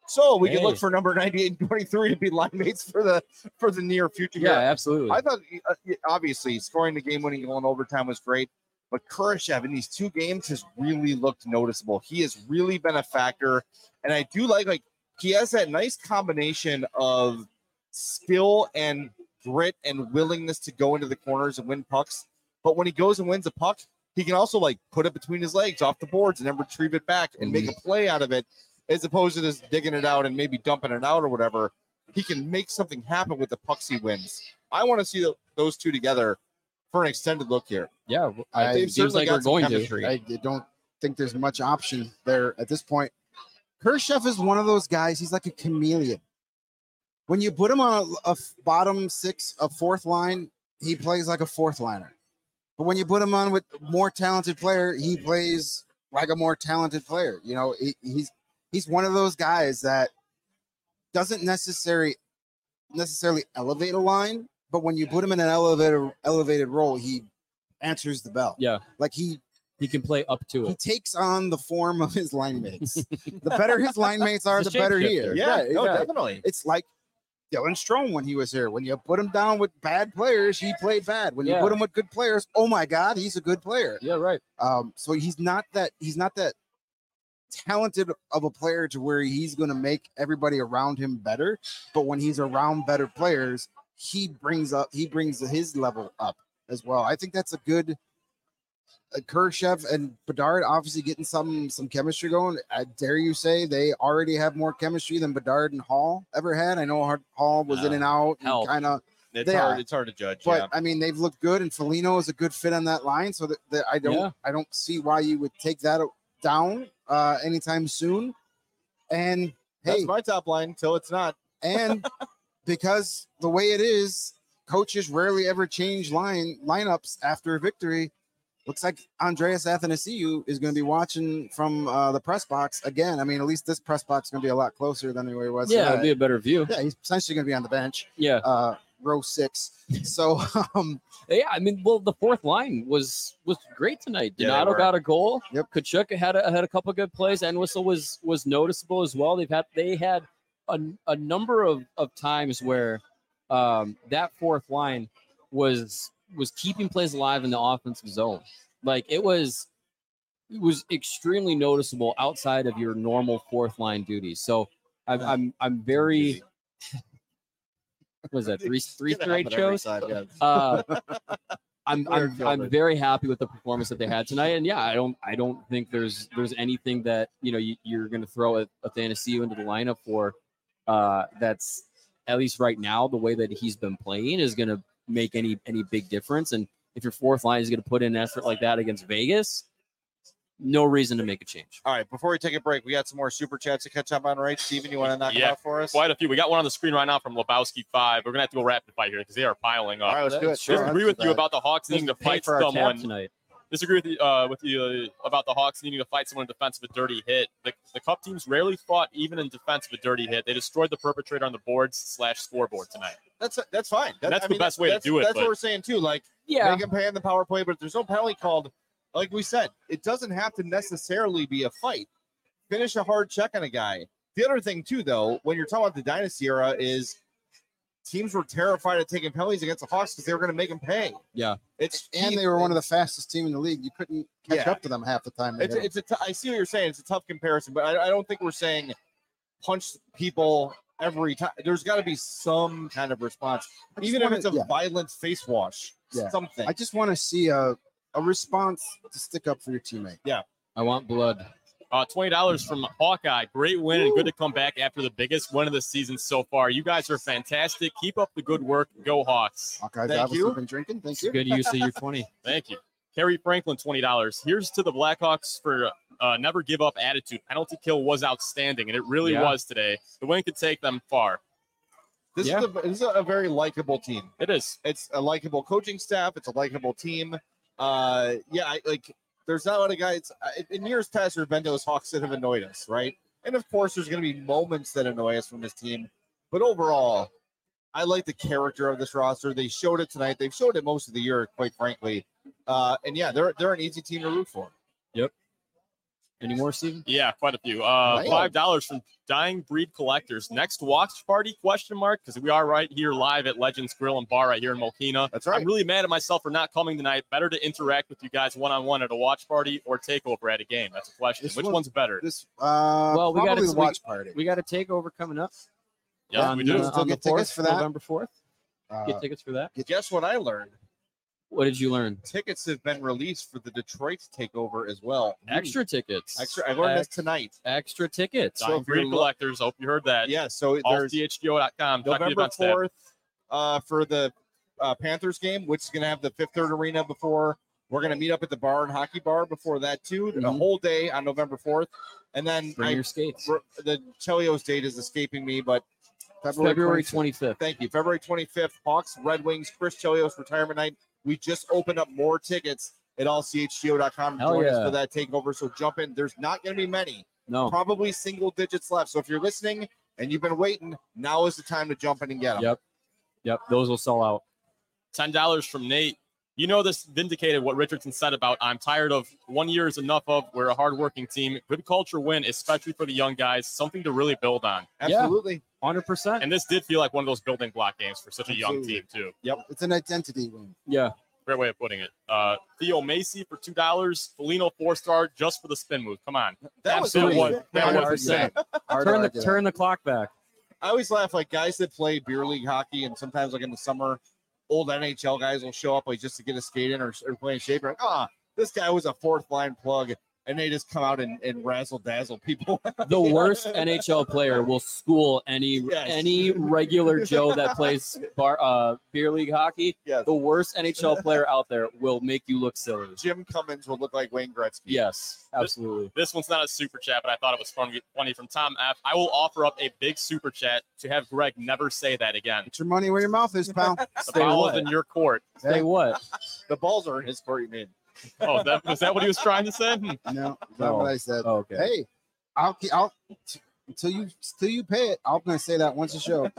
So we Hey. can look for number ninety-eight and twenty-three to be line mates for the for the near future. Yeah, here. absolutely. I thought uh, obviously scoring the game-winning goal in overtime was great, but Kurashev in these two games has really looked noticeable. He has really been a factor, and I do like like he has that nice combination of skill and grit and willingness to go into the corners and win pucks. But when he goes and wins a puck, he can also like put it between his legs off the boards and then retrieve it back and make a play out of it, as opposed to just digging it out and maybe dumping it out or whatever. He can make something happen with the pucks he wins. I want to see the, those two together for an extended look here. yeah, I- I, They've it seems certainly like got we're some going to. chemistry. I don't think there's much option there at this point. Kurashev is one of those guys. He's like a chameleon. When you put him on a, a bottom six, a fourth line, he plays like a fourth liner. But when you put him on with more talented player, he plays like a more talented player. You know, he, he's he's one of those guys that doesn't necessarily necessarily elevate a line, but when you put him in an elevated elevated role, he answers the bell. Yeah, Like he he can play up to he it. takes on the form of his line mates. The better his line mates are, He's the a better he shapeshifter. is. Yeah, Right, no, yeah. definitely. It's like Dylan Strome when he was here. When you put him down with bad players, he played bad. When you Yeah. put him with good players, oh my God, he's a good player. Yeah, right. Um, so he's not that he's not that talented of a player to where he's going to make everybody around him better. But when he's around better players, he brings up he brings his level up as well. I think that's a good. Uh, Kurashev and Bedard obviously getting some some chemistry going. I dare you say they already have more chemistry than Bedard and Hall ever had. I know Har- Hall was in Uh, and out, help. kind of, It's They hard. are. It's hard to judge. but yeah. I mean they've looked good, and Foligno is a good fit on that line. So that, that I don't Yeah. I don't see why you would take that down uh, anytime soon. And That's hey, my top line until it's not. and because the way it is, coaches rarely ever change line lineups after a victory. Looks like Andreas Athanasiou is going to be watching from uh, the press box again. I mean, at least this press box is going to be a lot closer than where it was. Yeah, Uh, it'll be a better view. yeah, he's essentially going to be on the bench, Yeah, uh, row six. So, um, yeah. I mean, well, the fourth line was was great tonight. Yeah, they Donato were. got a goal. Yep. Kachuk had a, had a couple good plays, and Whistle was was noticeable as well. They've had they had a, a number of, of times where um, that fourth line was was keeping plays alive in the offensive zone. Like it was it was extremely noticeable outside of your normal fourth line duties. So I'm I'm I'm very what is that three three Get it straight happen every shows? time, yeah. Uh, I'm We're I'm, filming. I'm very happy with the performance that they had tonight, and yeah, I don't I don't think there's there's anything that you know you, you're going to throw a, a Athanasiou into the lineup for. Uh, that's at least right now the way that he's been playing is going to make any any big difference. And if your fourth line is going to put in an effort like that against Vegas, no reason to make a change. All right, before we take a break, we got some more super chats to catch up on, right? Steven, you want to knock Yeah, them out for us? Quite a few. We got one on the screen right now from Lebowski five. We're gonna have to go rapid fire here because they are piling All up. right, let's do it. Sure. Disagree with you about the Hawks needing to Pay fight for our tab someone. tonight. Disagree with you, uh, with you uh, about the Hawks needing to fight someone in defense of a dirty hit. The, the Cup teams rarely fought even in defense of a dirty hit. They destroyed the perpetrator on the boards slash scoreboard tonight. That's that's fine. That- That's I the mean, best way to that's- do it, That's but- what we're saying too. Like, Yeah, make him pay in the power play, but if there's no penalty called, like we said, it doesn't have to necessarily be a fight. Finish a hard check on a guy. The other thing too, though, when you're talking about the dynasty era, is teams were terrified of taking penalties against the Hawks because they were going to make them pay. Yeah. It's and they were one of the fastest team in the league. You couldn't catch Yeah. up to them half the time. they It's hit 'em. it's a t- I see what you're saying. It's a tough comparison, but I, I don't think we're saying punch people every time. There's got to be some kind of response, I just even if wanna- it's a yeah. violent face wash. Yeah. Something. I just want to see a, a response to stick up for your teammate. I want blood. Uh, twenty dollars from Hawkeye. Great win and good to come back after the biggest win of the season so far. You guys are fantastic. Keep up the good work. Go Hawks. Hawkeyes Thank obviously you. been drinking. Thank It's you. a good use of your twenty. Thank you. Kerry Franklin, twenty dollars. Here's to the Blackhawks for uh, never give up attitude. Penalty kill was outstanding, and it really Yeah. was today. The win could take them far. This Yeah. is a, this is a very likable team. It is. It's a likable coaching staff. It's a likable team. Uh, yeah, I, like there's not a lot of guys I- in years past. There's been those Hawks that have annoyed us, right? And of course, there's going to be moments that annoy us from this team. But overall, I like the character of this roster. They showed it tonight. They've showed it most of the year, quite frankly. Uh, and yeah, they're they're an easy team to root for. Any more, Steven? Yeah, quite a few. Uh, Right. Five dollars from Dying Breed Collectors. Next watch party? Question mark. Because we are right here live at Legends Grill and Bar right here in Mokina. That's right. I'm really mad at myself for not coming tonight. Better to interact with you guys one on one at a watch party or takeover at a game. That's a question. This Which one- one's better? This uh Well, we probably gotta- the watch party. We got a takeover coming up. Yes, on, we do. uh, Still on the get tickets fourth, for that? November fourth. Uh, Get tickets for that. Guess what I learned? What did you learn? Tickets have been released for the Detroit takeover as well. Extra tickets. Extra, I learned this Ex- tonight. Extra tickets. So Dying if you're Breed lo- Collectors. Hope you heard that. Yeah, so All there's T H G O dot com. Check the November events tab. fourth uh, for the uh, Panthers game, which is going to have the Fifth Third Arena before. We're going to meet up at the bar and hockey bar before that, too, the Mhm. whole day on November fourth. And then Bring I, your skates. the Chelios date is escaping me, but February twenty-fifth. thank you. February twenty-fifth, Hawks, Red Wings, Chris Chelios retirement night. We just opened up more tickets at all C H G O dot com to Hell join us yeah. for that takeover. So jump in. There's not going to be many, No. probably single digits left. So if you're listening and you've been waiting, now is the time to jump in and get them. Yep. Yep. Those will sell out. ten dollars from Nate. You know, this vindicated what Richardson said about I'm tired of one year is enough of. We're a hardworking team. Good culture win, especially for the young guys. Something to really build on. Absolutely. one hundred percent. And this did feel like one of those building block games for such a young Absolutely. team, too. It's an identity win. Yeah. Great way of putting it. Uh, Theo Macy for two dollars. Felino four-star just for the spin move. Come on. That was That amazing. was- that Yeah, was I- insane. Hard to Turn the argue that. turn the clock back. I always laugh like guys that play beer league hockey and sometimes like in the summer, old N H L guys will show up like just to get a skate in or, or play in shape. You're like, ah, this guy was a fourth line plug, and they just come out and, and razzle dazzle people. The worst N H L player will school any Yes. any regular Joe that plays bar uh beer league hockey. Yes. The worst N H L player out there will make you look silly. Jim Cummins would look like Wayne Gretzky. Yes, absolutely. This one's not a super chat, but I thought it was funny, funny from Tom F. I will offer up a big super chat to have Greg never say that again. Get your money where your mouth is, pal. The Say ball what? is in your court. Say what? The balls are in his court, you mean. Oh, that, was that what he was trying to say? Hmm. No, that's No. not what I said. Oh, okay. Hey, I'll I'll t- until you until you pay it. I'm gonna say that once a show.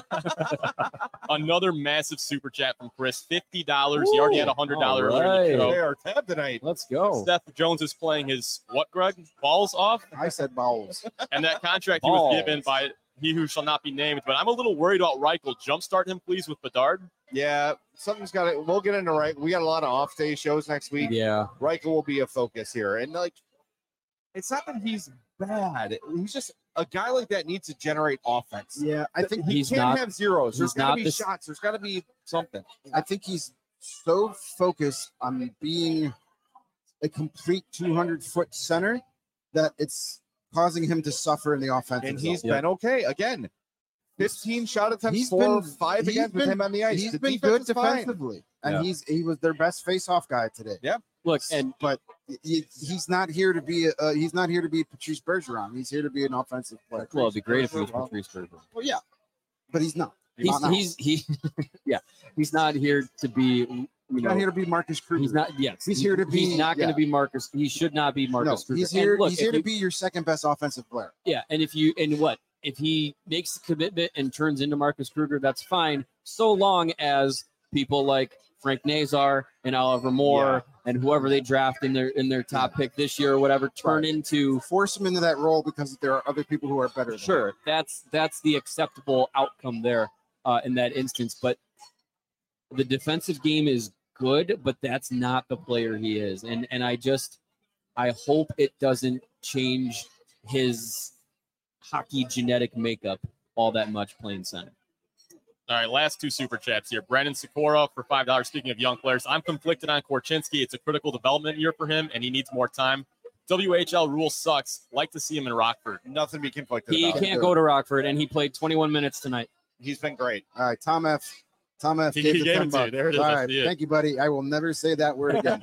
Another massive super chat from Chris. fifty dollars. He already had a one hundred dollars All earlier in the right. They show. are tabbed tonight. Let's go. Seth Jones is playing his, what, Greg? Balls off? I said bowels. And that contract he was Balls. given by he who shall not be named. But I'm a little worried about Reichel. Jumpstart him, please, with Bedard. Yeah, something's got to. We'll get into right. We got a lot of off day shows next week. Yeah. Reichel will be a focus here, and like, it's not that he's bad. He's just a guy like that needs to generate offense. Yeah, I think He He's can't not- have zeros. There's he's got not to be this- shots. There's got to be something. I think he's so focused on being a complete two hundred foot center that it's causing him to suffer in the offensive And he's zone. Yep. been okay. Again, fifteen shot attempts, He's four, been- five he's against with been- him on the ice. He's The been defense good is fine. defensively, and Yeah. he's he was their best face-off guy today. Look, and But he, he's not here to be a, uh, he's not here to be Patrice Bergeron. He's here to be an offensive player. well, it'd be great if it was Well, Patrice Bergeron. well, yeah, but he's not. He's Not now. he's he yeah. He's not here to be you He's know not here to be Marcus Kruger. he's not yes. He's he- here to He's be- not going to yeah. be Marcus. He should not be No, Marcus Kruger. he's And here. look, he's if here to you- be your second best offensive player. Yeah, and if you and what if he makes a commitment and turns into Marcus Kruger, that's fine, so long as people like Frank Nazar and Oliver Moore and whoever they draft in their in their top pick this year or whatever turn Right. into Force him into that role because there are other people who are better. Than him. sure. That's that's the acceptable outcome there uh, in that instance. But the defensive game is good, but that's not the player he is, and and I just I hope it doesn't change his hockey genetic makeup all that much playing center. All right, last two super chats here. Brandon Sikora for five dollars. Speaking of young players, I'm conflicted on Korchinski. It's a critical development year for him, and he needs more time. W H L rule sucks. Like to see him in Rockford. Nothing to be conflicted He about. can't go to Rockford, and he played twenty-one minutes tonight. He's been great. All right, Tom F. Tom F. He- gave he the gave ten it to you. bucks. There it is. All I right, see it. thank you, buddy. I will never say that word again.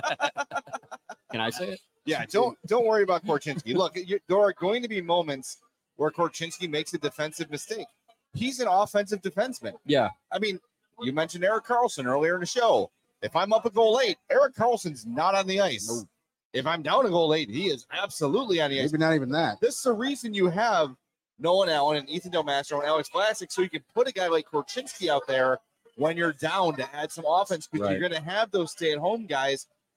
Can I say it? Yeah, don't don't worry about Korchinski. Look, you, there are going to be moments where Korchinski makes a defensive mistake. He's an offensive defenseman. Yeah. I mean, you mentioned Eric Carlson earlier in the show. If I'm up a goal late, Eric Carlson's not on the ice. No. If I'm down a goal late, he is absolutely on the ice. Maybe not even that. This is the reason you have Nolan Allen and Ethan Del Mastro and Alex Vlasic, so you can put a guy like Korchinski out there when you're down to add some offense, because Right. you're going to have those stay-at-home guys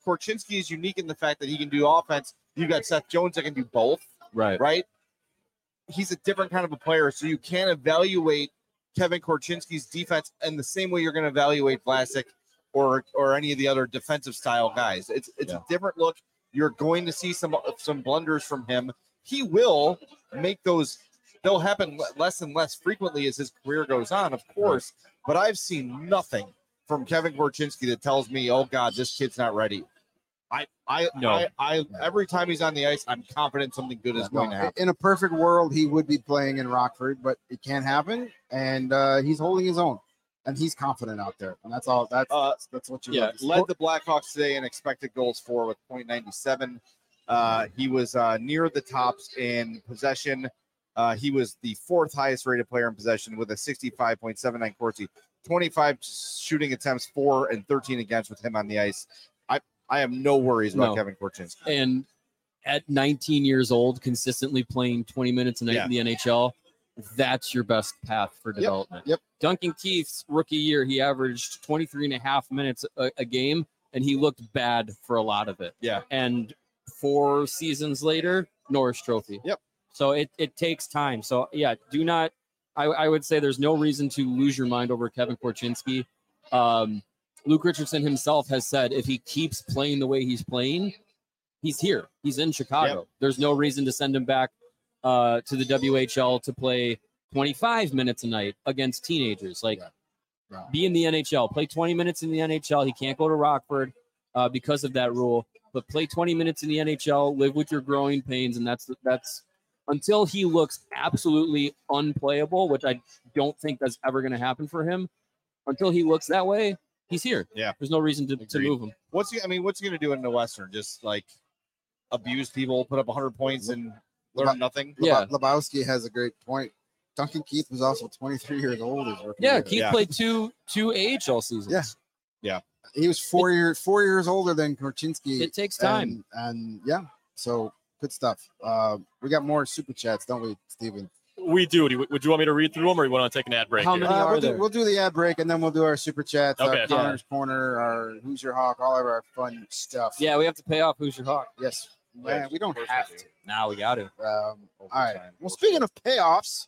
Korchinski is unique in the fact that he can do offense. You got Seth Jones that can do both, Right. right? He's a different kind of a player, so you can't evaluate Kevin Korchinski's defense in the same way you're going to evaluate Vlasic or or any of the other defensive style guys. It's it's Yeah. a different look. You're going to see some some blunders from him. He will make those. They'll happen le- less and less frequently as his career goes on, of course. But I've seen nothing from Kevin Korchinski that tells me, "Oh God, this kid's not ready." I I No. I, I every time he's on the ice, I'm confident something good is going to No, happen. in a perfect world, he would be playing in Rockford, but it can't happen. And uh, he's holding his own, and he's confident out there. And that's all. That's Uh, that's, that's what you yeah, love to see. Led the Blackhawks today in expected goals for with point nine seven. Uh, he was uh, near the tops in possession. Uh, he was the fourth highest rated player in possession with a sixty-five point seven nine Corsi, twenty-five shooting attempts, four and thirteen against with him on the ice. I, I have no worries about No. Kevin Korchinski. And at nineteen years old, consistently playing twenty minutes a night Yeah. in the N H L, that's your best path for development. yep. Duncan Keith's rookie year, he averaged twenty-three and a half minutes a, a game, and he looked bad for a lot of it. Yeah. And four seasons later, Norris Trophy. Yep. So it, it takes time. So, yeah, do not – I I would say there's no reason to lose your mind over Kevin Korchinski. Um, Luke Richardson himself has said if he keeps playing the way he's playing, he's here. He's in Chicago. Yep. There's no reason to send him back uh, to the W H L to play twenty-five minutes a night against teenagers. Like, Yeah. No. be in the N H L. Play twenty minutes in the N H L. He can't go to Rockford uh, because of that rule. But play twenty minutes in the N H L. Live with your growing pains, and that's that's until he looks absolutely unplayable, which I don't think that's ever going to happen for him. Until he looks that way, he's here. Yeah. There's no reason to, to Agreed. move him. What's he? I mean, what's he going to do in the Western? Just like abuse people, put up one hundred points, and learn Leba- nothing? Yeah. Lebowski has a great point. Duncan Keith was also twenty-three years old. His rookie Yeah, year. Keith Yeah. played two two A H L seasons. Yeah. He was four years four years older than Korchinski. It takes time. And, and yeah, so good stuff. Uh, we got more super chats, don't we, Steven? We do. Do you- Would you want me to read through them, or you want to take an ad break? How here? many Uh, are we'll, do, there? we'll do the ad break and then we'll do our super chats, Okay. our Connor's Corner, our Who's Your Hawk, all of our fun stuff. Yeah, we have to pay off Who's Your Hawk. Yes. Man, we don't have to. Now we got to. Um, all right. Well, speaking of payoffs,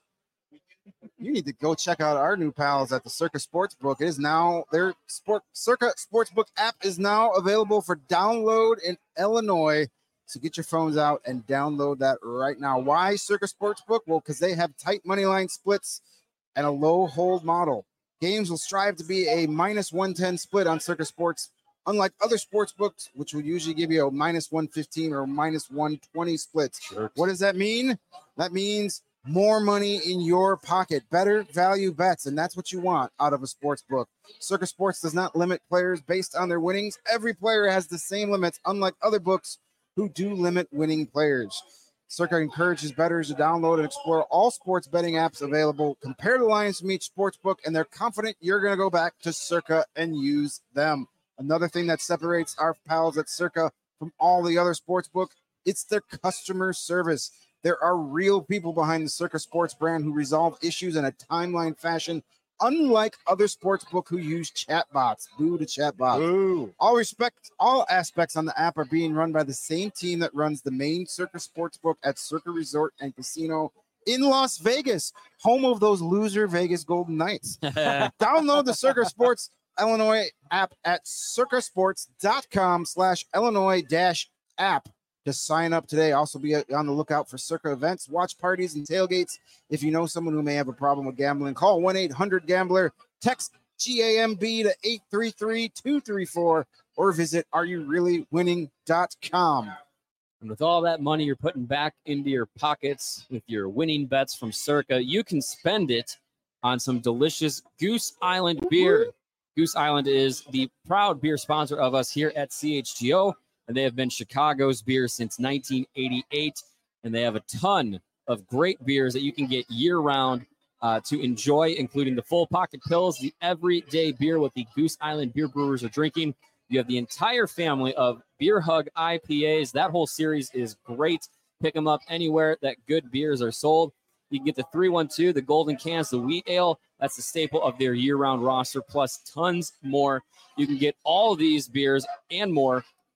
you need to go check out our new pals at the Circa Sportsbook. It is now their sport Circa Sportsbook app is now available for download in Illinois. So get your phones out and download that right now. Why Circa Sportsbook? Well, because they have tight money line splits and a low hold model. Games will strive to be a minus one ten split on Circa Sports, unlike other sports books, which would usually give you a minus one fifteen or minus one twenty splits. What does that mean? That means more money in your pocket, better value bets, and that's what you want out of a sports book. Circa Sports does not limit players based on their winnings. Every player has the same limits, unlike other books who do limit winning players. Circa encourages bettors to download and explore all sports betting apps available, compare the lines from each sports book, and they're confident you're going to go back to Circa and use them. Another thing that separates our pals at Circa from all the other sports book, it's their customer service. There are real people behind the Circa Sports brand who resolve issues in a timeline fashion, unlike other sports book who use chatbots. Boo to chatbots. Ooh. All respect, all aspects on the app are being run by the same team that runs the main Circa Sportsbook at Circa Resort and Casino in Las Vegas, home of those loser Vegas Golden Knights. Download the Circa Sports Illinois app at circasports.com slash Illinois dash app to sign up today. Also be on the lookout for Circa events, watch parties, and tailgates. If you know someone who may have a problem with gambling, call one eight hundred gambler, text G A M B to eight three three two three four, or visit are you really winning dot com. And with all that money you're putting back into your pockets with your winning bets from Circa, you can spend it on some delicious Goose Island beer. Goose Island is the proud beer sponsor of us here at C H G O, and they have been Chicago's beer since nineteen eighty-eight, and they have a ton of great beers that you can get year-round uh, to enjoy, including the full pocket pills, the everyday beer what the Goose Island beer brewers are drinking. You have the entire family of Beer Hug I P As. That whole series is great. Pick them up anywhere that good beers are sold. You can get the three one two, the Golden Cans, the Wheat Ale. That's the staple of their year-round roster, plus tons more. You can get all these beers and more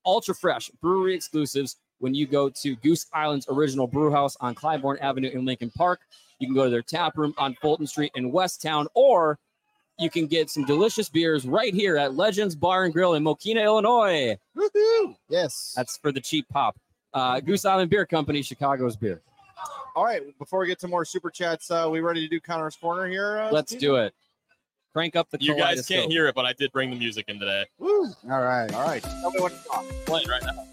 ultra fresh brewery exclusives when you go to Goose Island's original brew house on Clybourne Avenue in Lincoln Park. You can go to their tap room on Fulton Street in Westtown, or you can get some delicious beers right here at Legends Bar and Grill in Mokina, Illinois. Woohoo! Yes. That's for the cheap pop. Uh, Goose Island Beer Company, Chicago's beer. All right, before we get to more super chats, uh, we ready to do Connor's Corner here? Uh, Let's Steve? do it. Crank up the You guys kaleidoscope. can't hear it, but I did bring the music in today. Woo! All right. All right, tell me what to talk. Playing right now.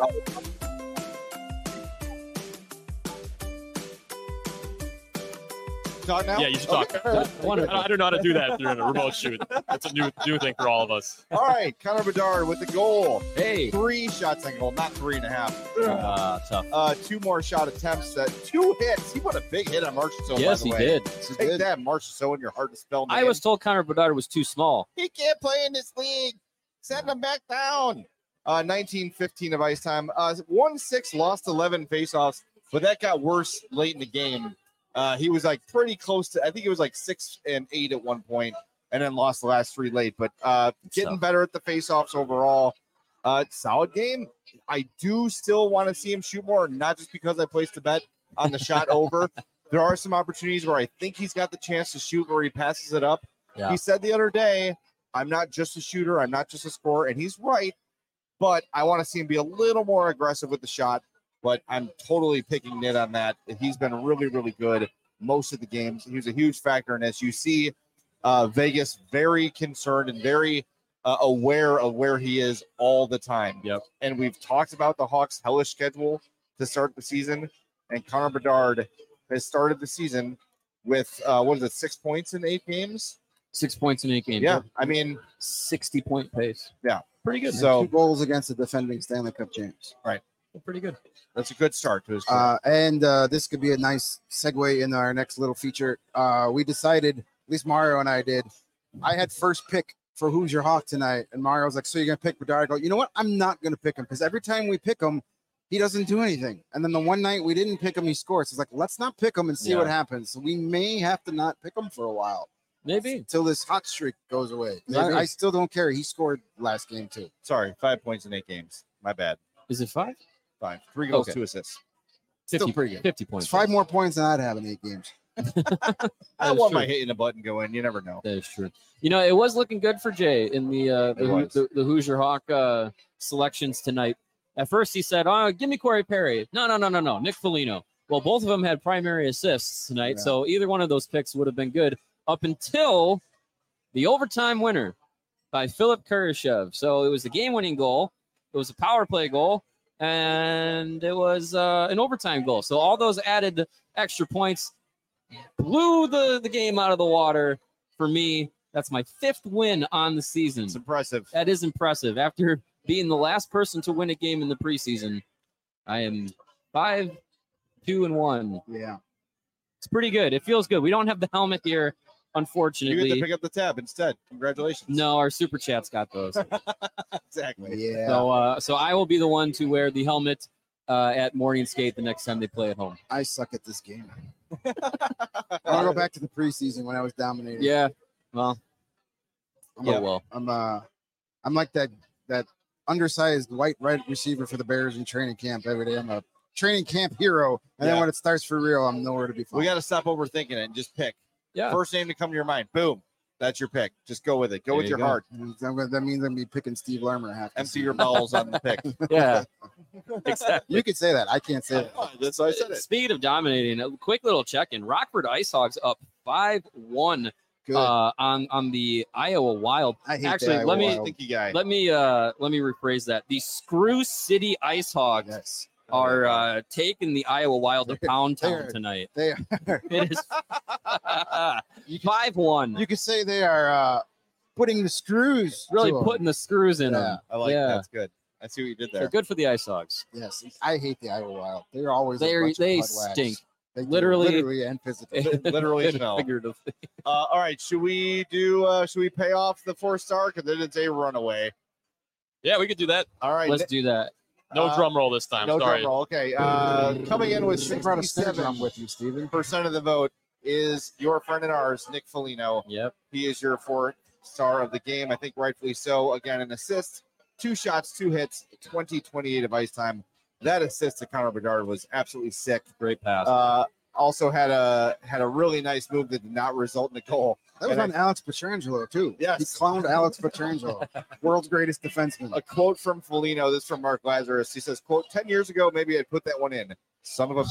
Talk now? Yeah, you should talk. Okay, all right. I don't, I don't know how to do that through a remote shoot. That's a new new thing for all of us. All right, Connor Bedard with the goal. Hey. Three shots on goal, not three and a half. Uh, tough. Uh, two more shot attempts. Uh, two hits. He put a big hit on Marchessault. Yes, by the he way. did. This is Take good. that, Marchessault, and you're hard to spell. I name. was told Connor Bedard was too small. He can't play in this league. Send him back down. Uh, nineteen fifteen of ice time. Uh, one six, lost eleven faceoffs, but that got worse late in the game. Uh, he was like pretty close to, I think it was like six and eight at one point, and then lost the last three late. But uh, getting tough. better at the faceoffs overall. Uh, solid game. I do still want to see him shoot more, not just because I placed a bet on the shot over. There are some opportunities where I think he's got the chance to shoot where he passes it up. Yeah. He said the other day, I'm not just a shooter, I'm not just a scorer, and he's right, but I want to see him be a little more aggressive with the shot, but I'm totally picking Nit on that. He's been really, really good most of the games. He was a huge factor in this. You see uh, Vegas very concerned and very uh, aware of where he is all the time. Yep. And we've talked about the Hawks' hellish schedule to start the season, and Connor Bedard has started the season with, uh, what is it, six points in eight games? Six points in eight games. Yeah, I mean, sixty point pace. Yeah. Pretty good. And So- two goals against the defending Stanley Cup champs. Pretty good. that's a good start to his career. Uh, and uh, this could be a nice segue in our next little feature. Uh, we decided, at least Mario and I did. I had first pick for Who's Your Hawk tonight, and Mario was like, "So you're gonna pick Bedard?" I go, "You know what? I'm not gonna pick him because every time we pick him, he doesn't do anything. And then the one night we didn't pick him, he scores. It's like, let's not pick him and see Yeah. what happens. So we may have to not pick him for a while Maybe. until this hot streak goes away. 'Cause Maybe. I, I still don't care. He scored last game too. Sorry, five points in eight games. My bad. Is it five? Five. Three goals, Okay. two assists. Still fifty, pretty good. fifty points. It's five more points than I'd have in eight games. I That is want true. my hitting a button going. You never know. That is true. You know, it was looking good for Jay in the uh, the, It Who- was. the, the Hoosier Hawk uh, selections tonight. At first, he said, "Oh, give me Corey Perry." No, no, no, no, no. Nick Foligno. Well, both of them had primary assists tonight, Yeah. so either one of those picks would have been good up until the overtime winner by Philip Kurashev. So it was a game-winning goal. It was a power play goal, and it was uh, an overtime goal. So all those added extra points blew the, the game out of the water for me. That's my fifth win on the season. It's impressive. That is impressive. After being the last person to win a game in the preseason, I am five, two, and one. Yeah. It's pretty good. It feels good. We don't have the helmet here, You get to unfortunately. pick up the tab instead. Congratulations. No, our super chats got those. Exactly. Yeah. So, uh, so I will be the one to wear the helmet uh, at morning skate the next time they play at home. I suck at this game. I want to go back to the preseason when I was dominating. Yeah. Well. I'm, Yeah. a- Well. I'm uh I'm like that that undersized white right receiver for the Bears in training camp every day. I'm a training camp hero, and Yeah. then when it starts for real, I'm nowhere to be found. We got to stop overthinking it and just pick. Yeah. First name to come to your mind. Boom. That's your pick. Just go with it. Go There with you your go. heart. I'm gonna- that means I'm gonna be picking Steve Larmer half. the Empty your season. bowels on the pick. Yeah. Exactly. You could say that. I can't say that. That's why I said it. Speed of dominating. A quick little check in. Rockford Ice Hogs up five one Good. uh, on on the Iowa Wild. I hate Actually, the Iowa let me- Wild. Stinky guy. Let me uh let me rephrase that. The Screw City Ice Hogs Yes, are uh, taking the Iowa Wild to Pound Town They're- tonight. they are. It is You could, five one. you could say they are uh, putting the screws. Really to 'em. putting the screws in Yeah. them. I like Yeah. That's good. I see what you did They're there. good for the Ice Hogs. Yes, I hate the Iowa Wild. They're always a They're- bunch of they butt wags. stink. They do, Literally- literally and physically. Literally And smell. figuratively. Uh, all right. Should we do, uh, should we pay off the four star? Because then it's a runaway. Yeah, we could do that. All right. Let's do that. No Uh, drum roll this time. No Sorry. drum roll. Okay. Uh, coming in with You should have brought a snare sixty-seven drum with you, Steven. percent of the vote is your friend and ours, Nick Foligno. Yep. He is your four star of the game. I think rightfully so. Again, an assist two shots, two hits, twenty twenty-eight of ice time. That assist to Connor Bedard was absolutely sick. Great pass. Uh, also had a had a really nice move that did not result in a goal. That was And on Alex Pietrangelo, too. Yes. He clowned Alex Pietrangelo, world's greatest defenseman. A quote from Foligno, this is from Mark Lazarus. He says, quote, ten years ago, maybe I'd put that one in. Son of a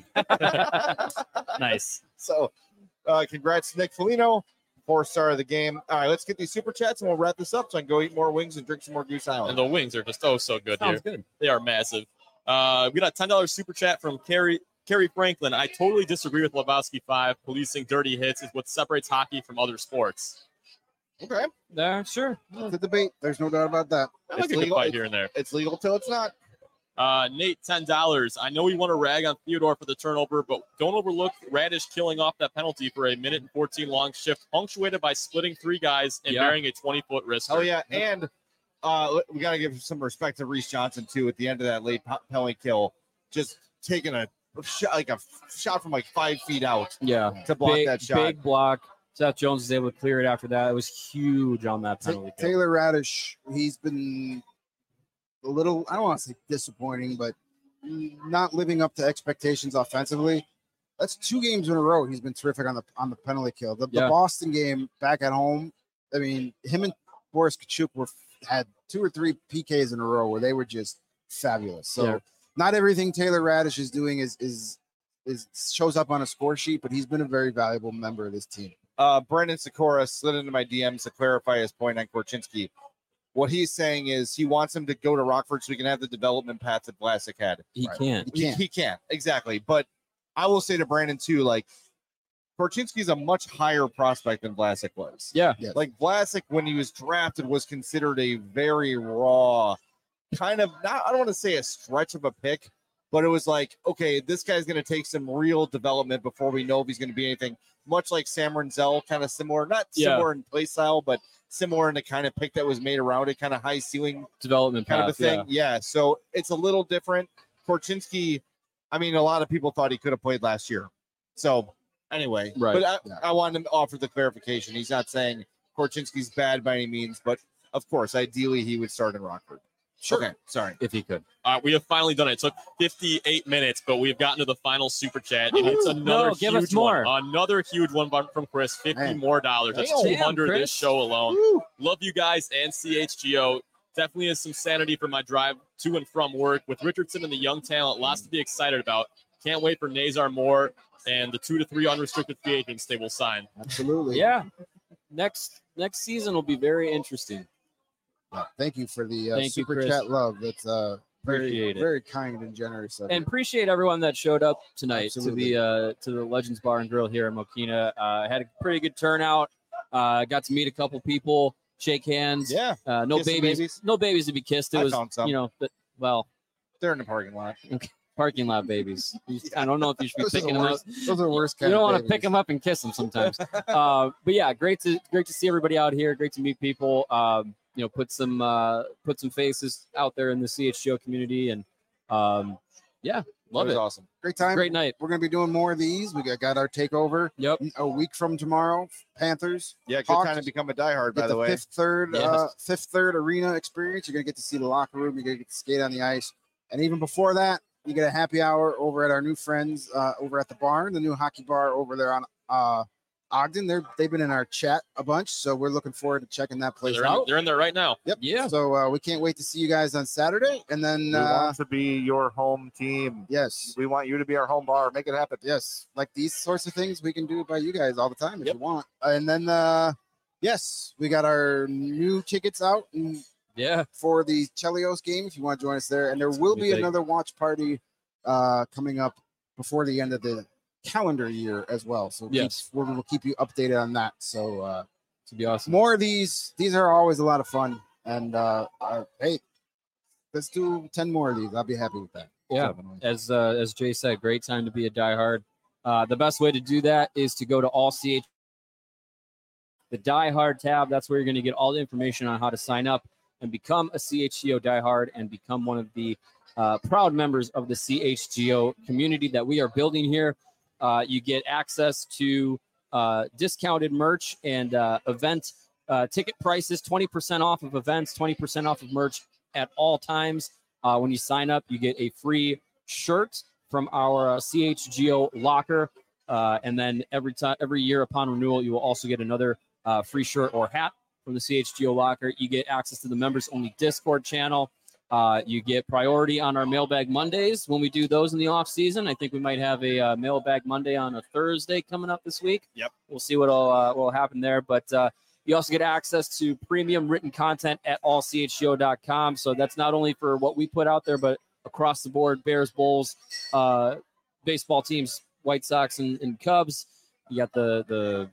bitch. Nice. So uh, congrats, Nick Foligno, four star of the game. All right, let's get these super chats and we'll wrap this up so I can go eat more wings and drink some more Goose And Island. the wings are just oh so good here. Sounds good. They are massive. Uh, we got a ten dollars super chat from Carrie Carrie Franklin. I totally disagree with Lebowski five. Policing dirty hits is what separates hockey from other sports. Okay. Yeah, sure. The debate. There's no doubt about that. I like It's a good legal. fight here and there. It's legal till it's not. Uh, Nate, ten dollars. I know you want to rag on Theodore for the turnover, but don't overlook Radish killing off that penalty for a minute and fourteen long shift, punctuated by splitting three guys and Yeah. bearing a twenty-foot wrist. Oh, hurt. yeah. And uh, we got to give some respect to Reese Johnson, too, at the end of that late pe- penalty kill. Just taking a shot, like a shot from like five feet out Yeah. to block big, that shot. Big block. Seth Jones was able to clear it after that. It was huge on that Ta- penalty. kill. Taylor Radish, he's been a little, I don't want to say disappointing, but not living up to expectations offensively. That's two games in a row. He's been terrific on the on the penalty kill. The, the Yeah. Boston game back at home, I mean, him and Boris Kachuk were had two or three P Ks in a row where they were just fabulous. So Yeah. not everything Taylor Radish is doing is is is shows up on a score sheet, but he's been a very valuable member of this team. Uh, Brendan Sikora slid into my D Ms to clarify his point on Korchinski. What he's saying is he wants him to go to Rockford so he can have the development path that Vlasic had. He Right. can't. You He, can't. he can't, exactly. But I will say to Brandon, too, like, Korchinski's a much higher prospect than Vlasic was. Yeah. Yes. Like, Vlasic, when he was drafted, was considered a very raw, kind of, not, I don't want to say a stretch of a pick, but it was like, okay, this guy's going to take some real development before we know if he's going to be anything. Much like Sam Renzel, kind of similar, not Yeah. similar in play style, but similar in the kind of pick that was made around it, kind of high ceiling Development kind of a path, thing. yeah. Yeah. So it's a little different. Korchinski, I mean, a lot of people thought he could have played last year. So anyway, Right. but I, Yeah. I wanted to offer the clarification. He's not saying Korchinski's bad by any means, but of course, ideally he would start in Rockford. Sure. Okay. Sorry. If he could. Uh, we have finally done it. It took fifty-eight minutes, but we've gotten to the final super chat, and it's Woo-hoo. another No, give huge us more. one. Another huge one bu- from Chris. fifty Man. more dollars. That's Damn, two hundred Chris. this show alone. Love you guys and C H G O. Definitely is some sanity for my drive to and from work. With Richardson and the young talent, lots to be excited about. Can't wait for Nazar Moore and the two to three unrestricted free agents they will sign. Absolutely. Yeah. Next next season will be very interesting. Yeah, thank you for the uh, Thank you, super Chris. chat love. That's uh, very, Appreciate it. very kind and generous. Of And you. appreciate everyone that showed up tonight Absolutely. to the uh, to the Legends Bar and Grill here in Mokina. Uh, had a pretty good turnout. Uh, got to meet a couple people, shake hands. Yeah. Uh, no Kiss some babies, babies? no babies to be kissed. It I was, found some. you know, but, well, They're in the parking lot. parking lot babies. I don't know if you should be Those are picking the them up. worst. Those are the worst You kind don't of want to pick babies. them up and kiss them sometimes. uh, but yeah, great to great to see everybody out here. Great to meet people. Um, you know, put some uh, put some faces out there in the C H G O community, and um, yeah, love It was it. awesome. Great time. Great night. We're gonna be doing more of these. We got, got our takeover Yep. a week from tomorrow. Panthers. Yeah. Good Hawks. time to become a diehard, Get by the, way. fifth third, Yes. uh, fifth third arena experience. You're gonna get to see the locker room. You're gonna get to skate on the ice, and even before that, you get a happy hour over at our new friends uh, over at the barn, the new hockey bar over there on uh, Ogden. They're they've been in our chat a bunch, so we're looking forward to checking that place They're in, out. they're in there right now. Yep. Yeah. So uh, we can't wait to see you guys on Saturday, and then We uh, want to be your home team. yes, We want you to be our home bar. Make it happen. yes, like these sorts of things we can do by you guys all the time if Yep. you want. And then uh, yes, we got our new tickets out and Yeah. for the Chelios game if you want to join us there. And there will be be big. another watch party uh, coming up before the end of the calendar year as well. So keep- Yes. we will keep you updated on that. So uh, To be awesome. more of these. These are always a lot of fun. And uh, uh, hey, let's do ten more of these. I'll be happy with that. Yeah. Definitely. As uh, as Jay said, great time to be a diehard. Uh, the best way to do that is to go to all C H the diehard tab. That's where you're going to get all the information on how to sign up and become a C H G O diehard and become one of the uh, proud members of the C H G O community that we are building here. Uh, you get access to uh, discounted merch and uh, event uh, ticket prices, twenty percent off of events, twenty percent off of merch, at all times. Uh, when you sign up, you get a free shirt from our uh, C H G O locker. Uh, and then every time, every year upon renewal, you will also get another uh, free shirt or hat from the C H G O locker. You get access to the members only Discord channel. Uh, you get priority on our Mailbag Mondays when we do those in the off season. I think we might have a uh, Mailbag Monday on a Thursday coming up this week. Yep. We'll see what'll uh, what'll happen there. But uh, you also get access to premium written content at all c h g o dot com. So that's not only for what we put out there, but across the board, Bears, Bulls, uh, baseball teams, White Sox and, and Cubs. You got the the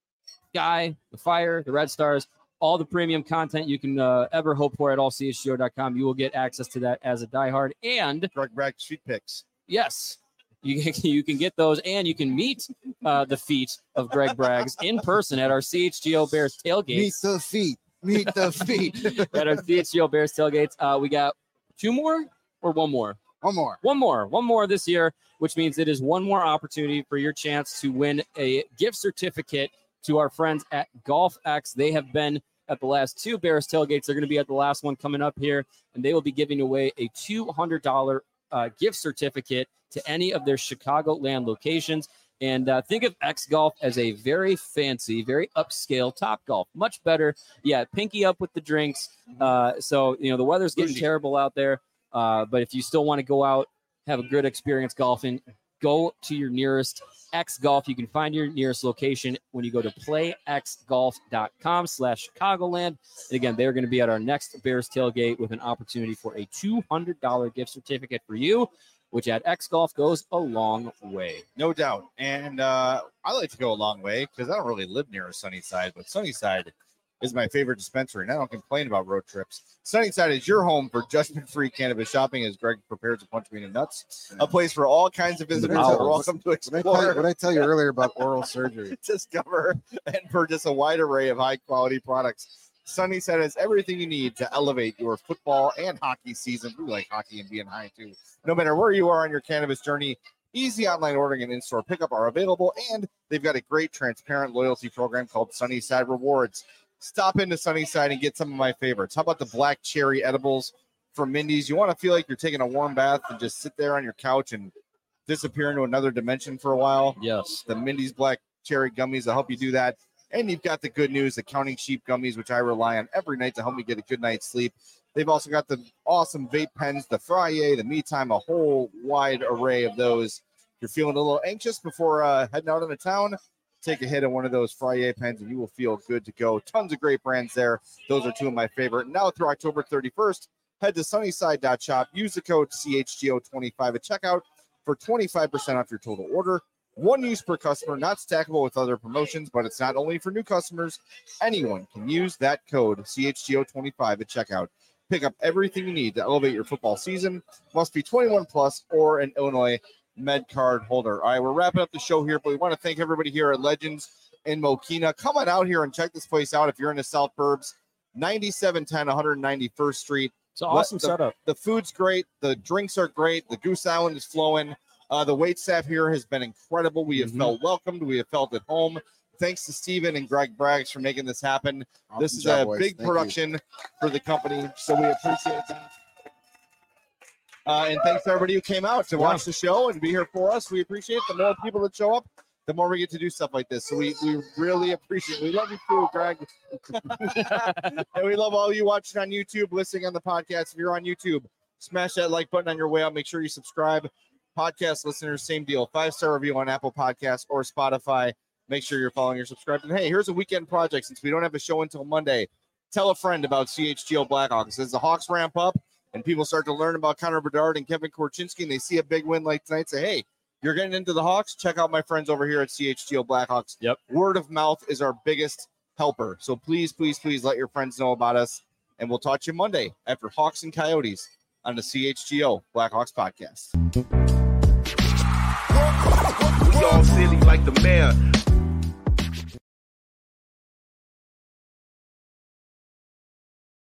Sky, the Fire, the Red Stars. All the premium content you can uh, ever hope for at all c h g o dot com. You will get access to that as a diehard. And Greg Bragg street picks. yes, you can, you can get those, and you can meet uh, the feet of Greg Braggs in person at our C H G O Bears tailgates. Meet the feet. Meet the feet. At our C H G O Bears tailgates. Uh, we got two more or one more? One more. One more. One more this year, which means it is one more opportunity for your chance to win a gift certificate to our friends at Golf X. They have been at the last two Bears tailgates. They're going to be at the last one coming up here, and they will be giving away a two hundred dollars uh, gift certificate to any of their Chicagoland locations. And uh, think of X Golf as a very fancy, very upscale Top Golf. Much better. Yeah, pinky up with the drinks. Uh, so, you know, the weather's getting Bougie. terrible out there. Uh, but if you still want to go out, have a good experience golfing, go to your nearest X Golf. You can find your nearest location when you go to play x golf dot com slash Chicagoland. And again, they're going to be at our next Bears tailgate with an opportunity for a two hundred dollars gift certificate for you, which at X Golf goes a long way. No doubt. And uh, I like to go a long way because I don't really live near a Sunnyside, but Sunnyside is my favorite dispensary, and I don't complain about road trips. Sunnyside is your home for judgment-free cannabis shopping as Greg prepares to punch me in the nuts. A place for all kinds of visitors Wow. that are welcome to What I, tell you, explore, what I tell you earlier about oral surgery? discover, and purchase a wide array of high-quality products. Sunnyside has everything you need to elevate your football and hockey season. We like hockey and being high, too. No matter where you are on your cannabis journey, easy online ordering and in-store pickup are available, and they've got a great, transparent loyalty program called Sunnyside Rewards. Stop into Sunnyside and get some of my favorites. How about the black cherry edibles from Mindy's? You want to feel like you're taking a warm bath and just sit there on your couch and disappear into another dimension for a while? Yes. The Mindy's black cherry gummies will help you do that. And you've got the good news, the Counting Sheep gummies, which I rely on every night to help me get a good night's sleep. They've also got the awesome vape pens, the Frye, the Me Time, a whole wide array of those. If you're feeling a little anxious before uh, heading out into town, take a hit of one of those Frye pens and you will feel good to go. Tons of great brands there. Those are two of my favorite. Now through October thirty-first, head to sunnyside dot shop. Use the code C H G O twenty-five at checkout for twenty-five percent off your total order. One use per customer, not stackable with other promotions, but it's not only for new customers. Anyone can use that code C H G O twenty-five at checkout. Pick up everything you need to elevate your football season. Must be twenty-one plus or an Illinois Med card holder. All right, we're wrapping up the show here, but we want to thank everybody here at Legends in Mokina. Come on out here and check this place out if you're in the South Burbs. ninety-seven ten one ninety-first Street. It's an awesome the, setup. The food's great. The drinks are great. The Goose Island is flowing. Uh, the wait staff here has been incredible. We have Mhm. felt welcomed. We have felt at home. Thanks to Steven and Greg Braggs for making this happen. Awesome This is job, a boys. big Thank you. production for the company, so we appreciate that. Uh, and thanks to everybody who came out to watch the show and be here for us. We appreciate it. The more people that show up, the more we get to do stuff like this. So we, we really appreciate it. We love you too, Greg. And we love all you watching on YouTube, listening on the podcast. If you're on YouTube, smash that like button on your way out. Make sure you subscribe. Podcast listeners, same deal. Five-star review on Apple Podcasts or Spotify. Make sure you're following or subscribed. And hey, here's a weekend project. Since we don't have a show until Monday, tell a friend about C H G O Blackhawks. As the Hawks ramp up and people start to learn about Connor Bedard and Kevin Korchinski, and they see a big win like tonight, say, hey, you're getting into the Hawks? Check out my friends over here at C H G O Blackhawks. Yep. Word of mouth is our biggest helper. So please, please, please let your friends know about us. And we'll talk to you Monday after Hawks and Coyotes on the C H G O Blackhawks podcast. We all silly like the mayor.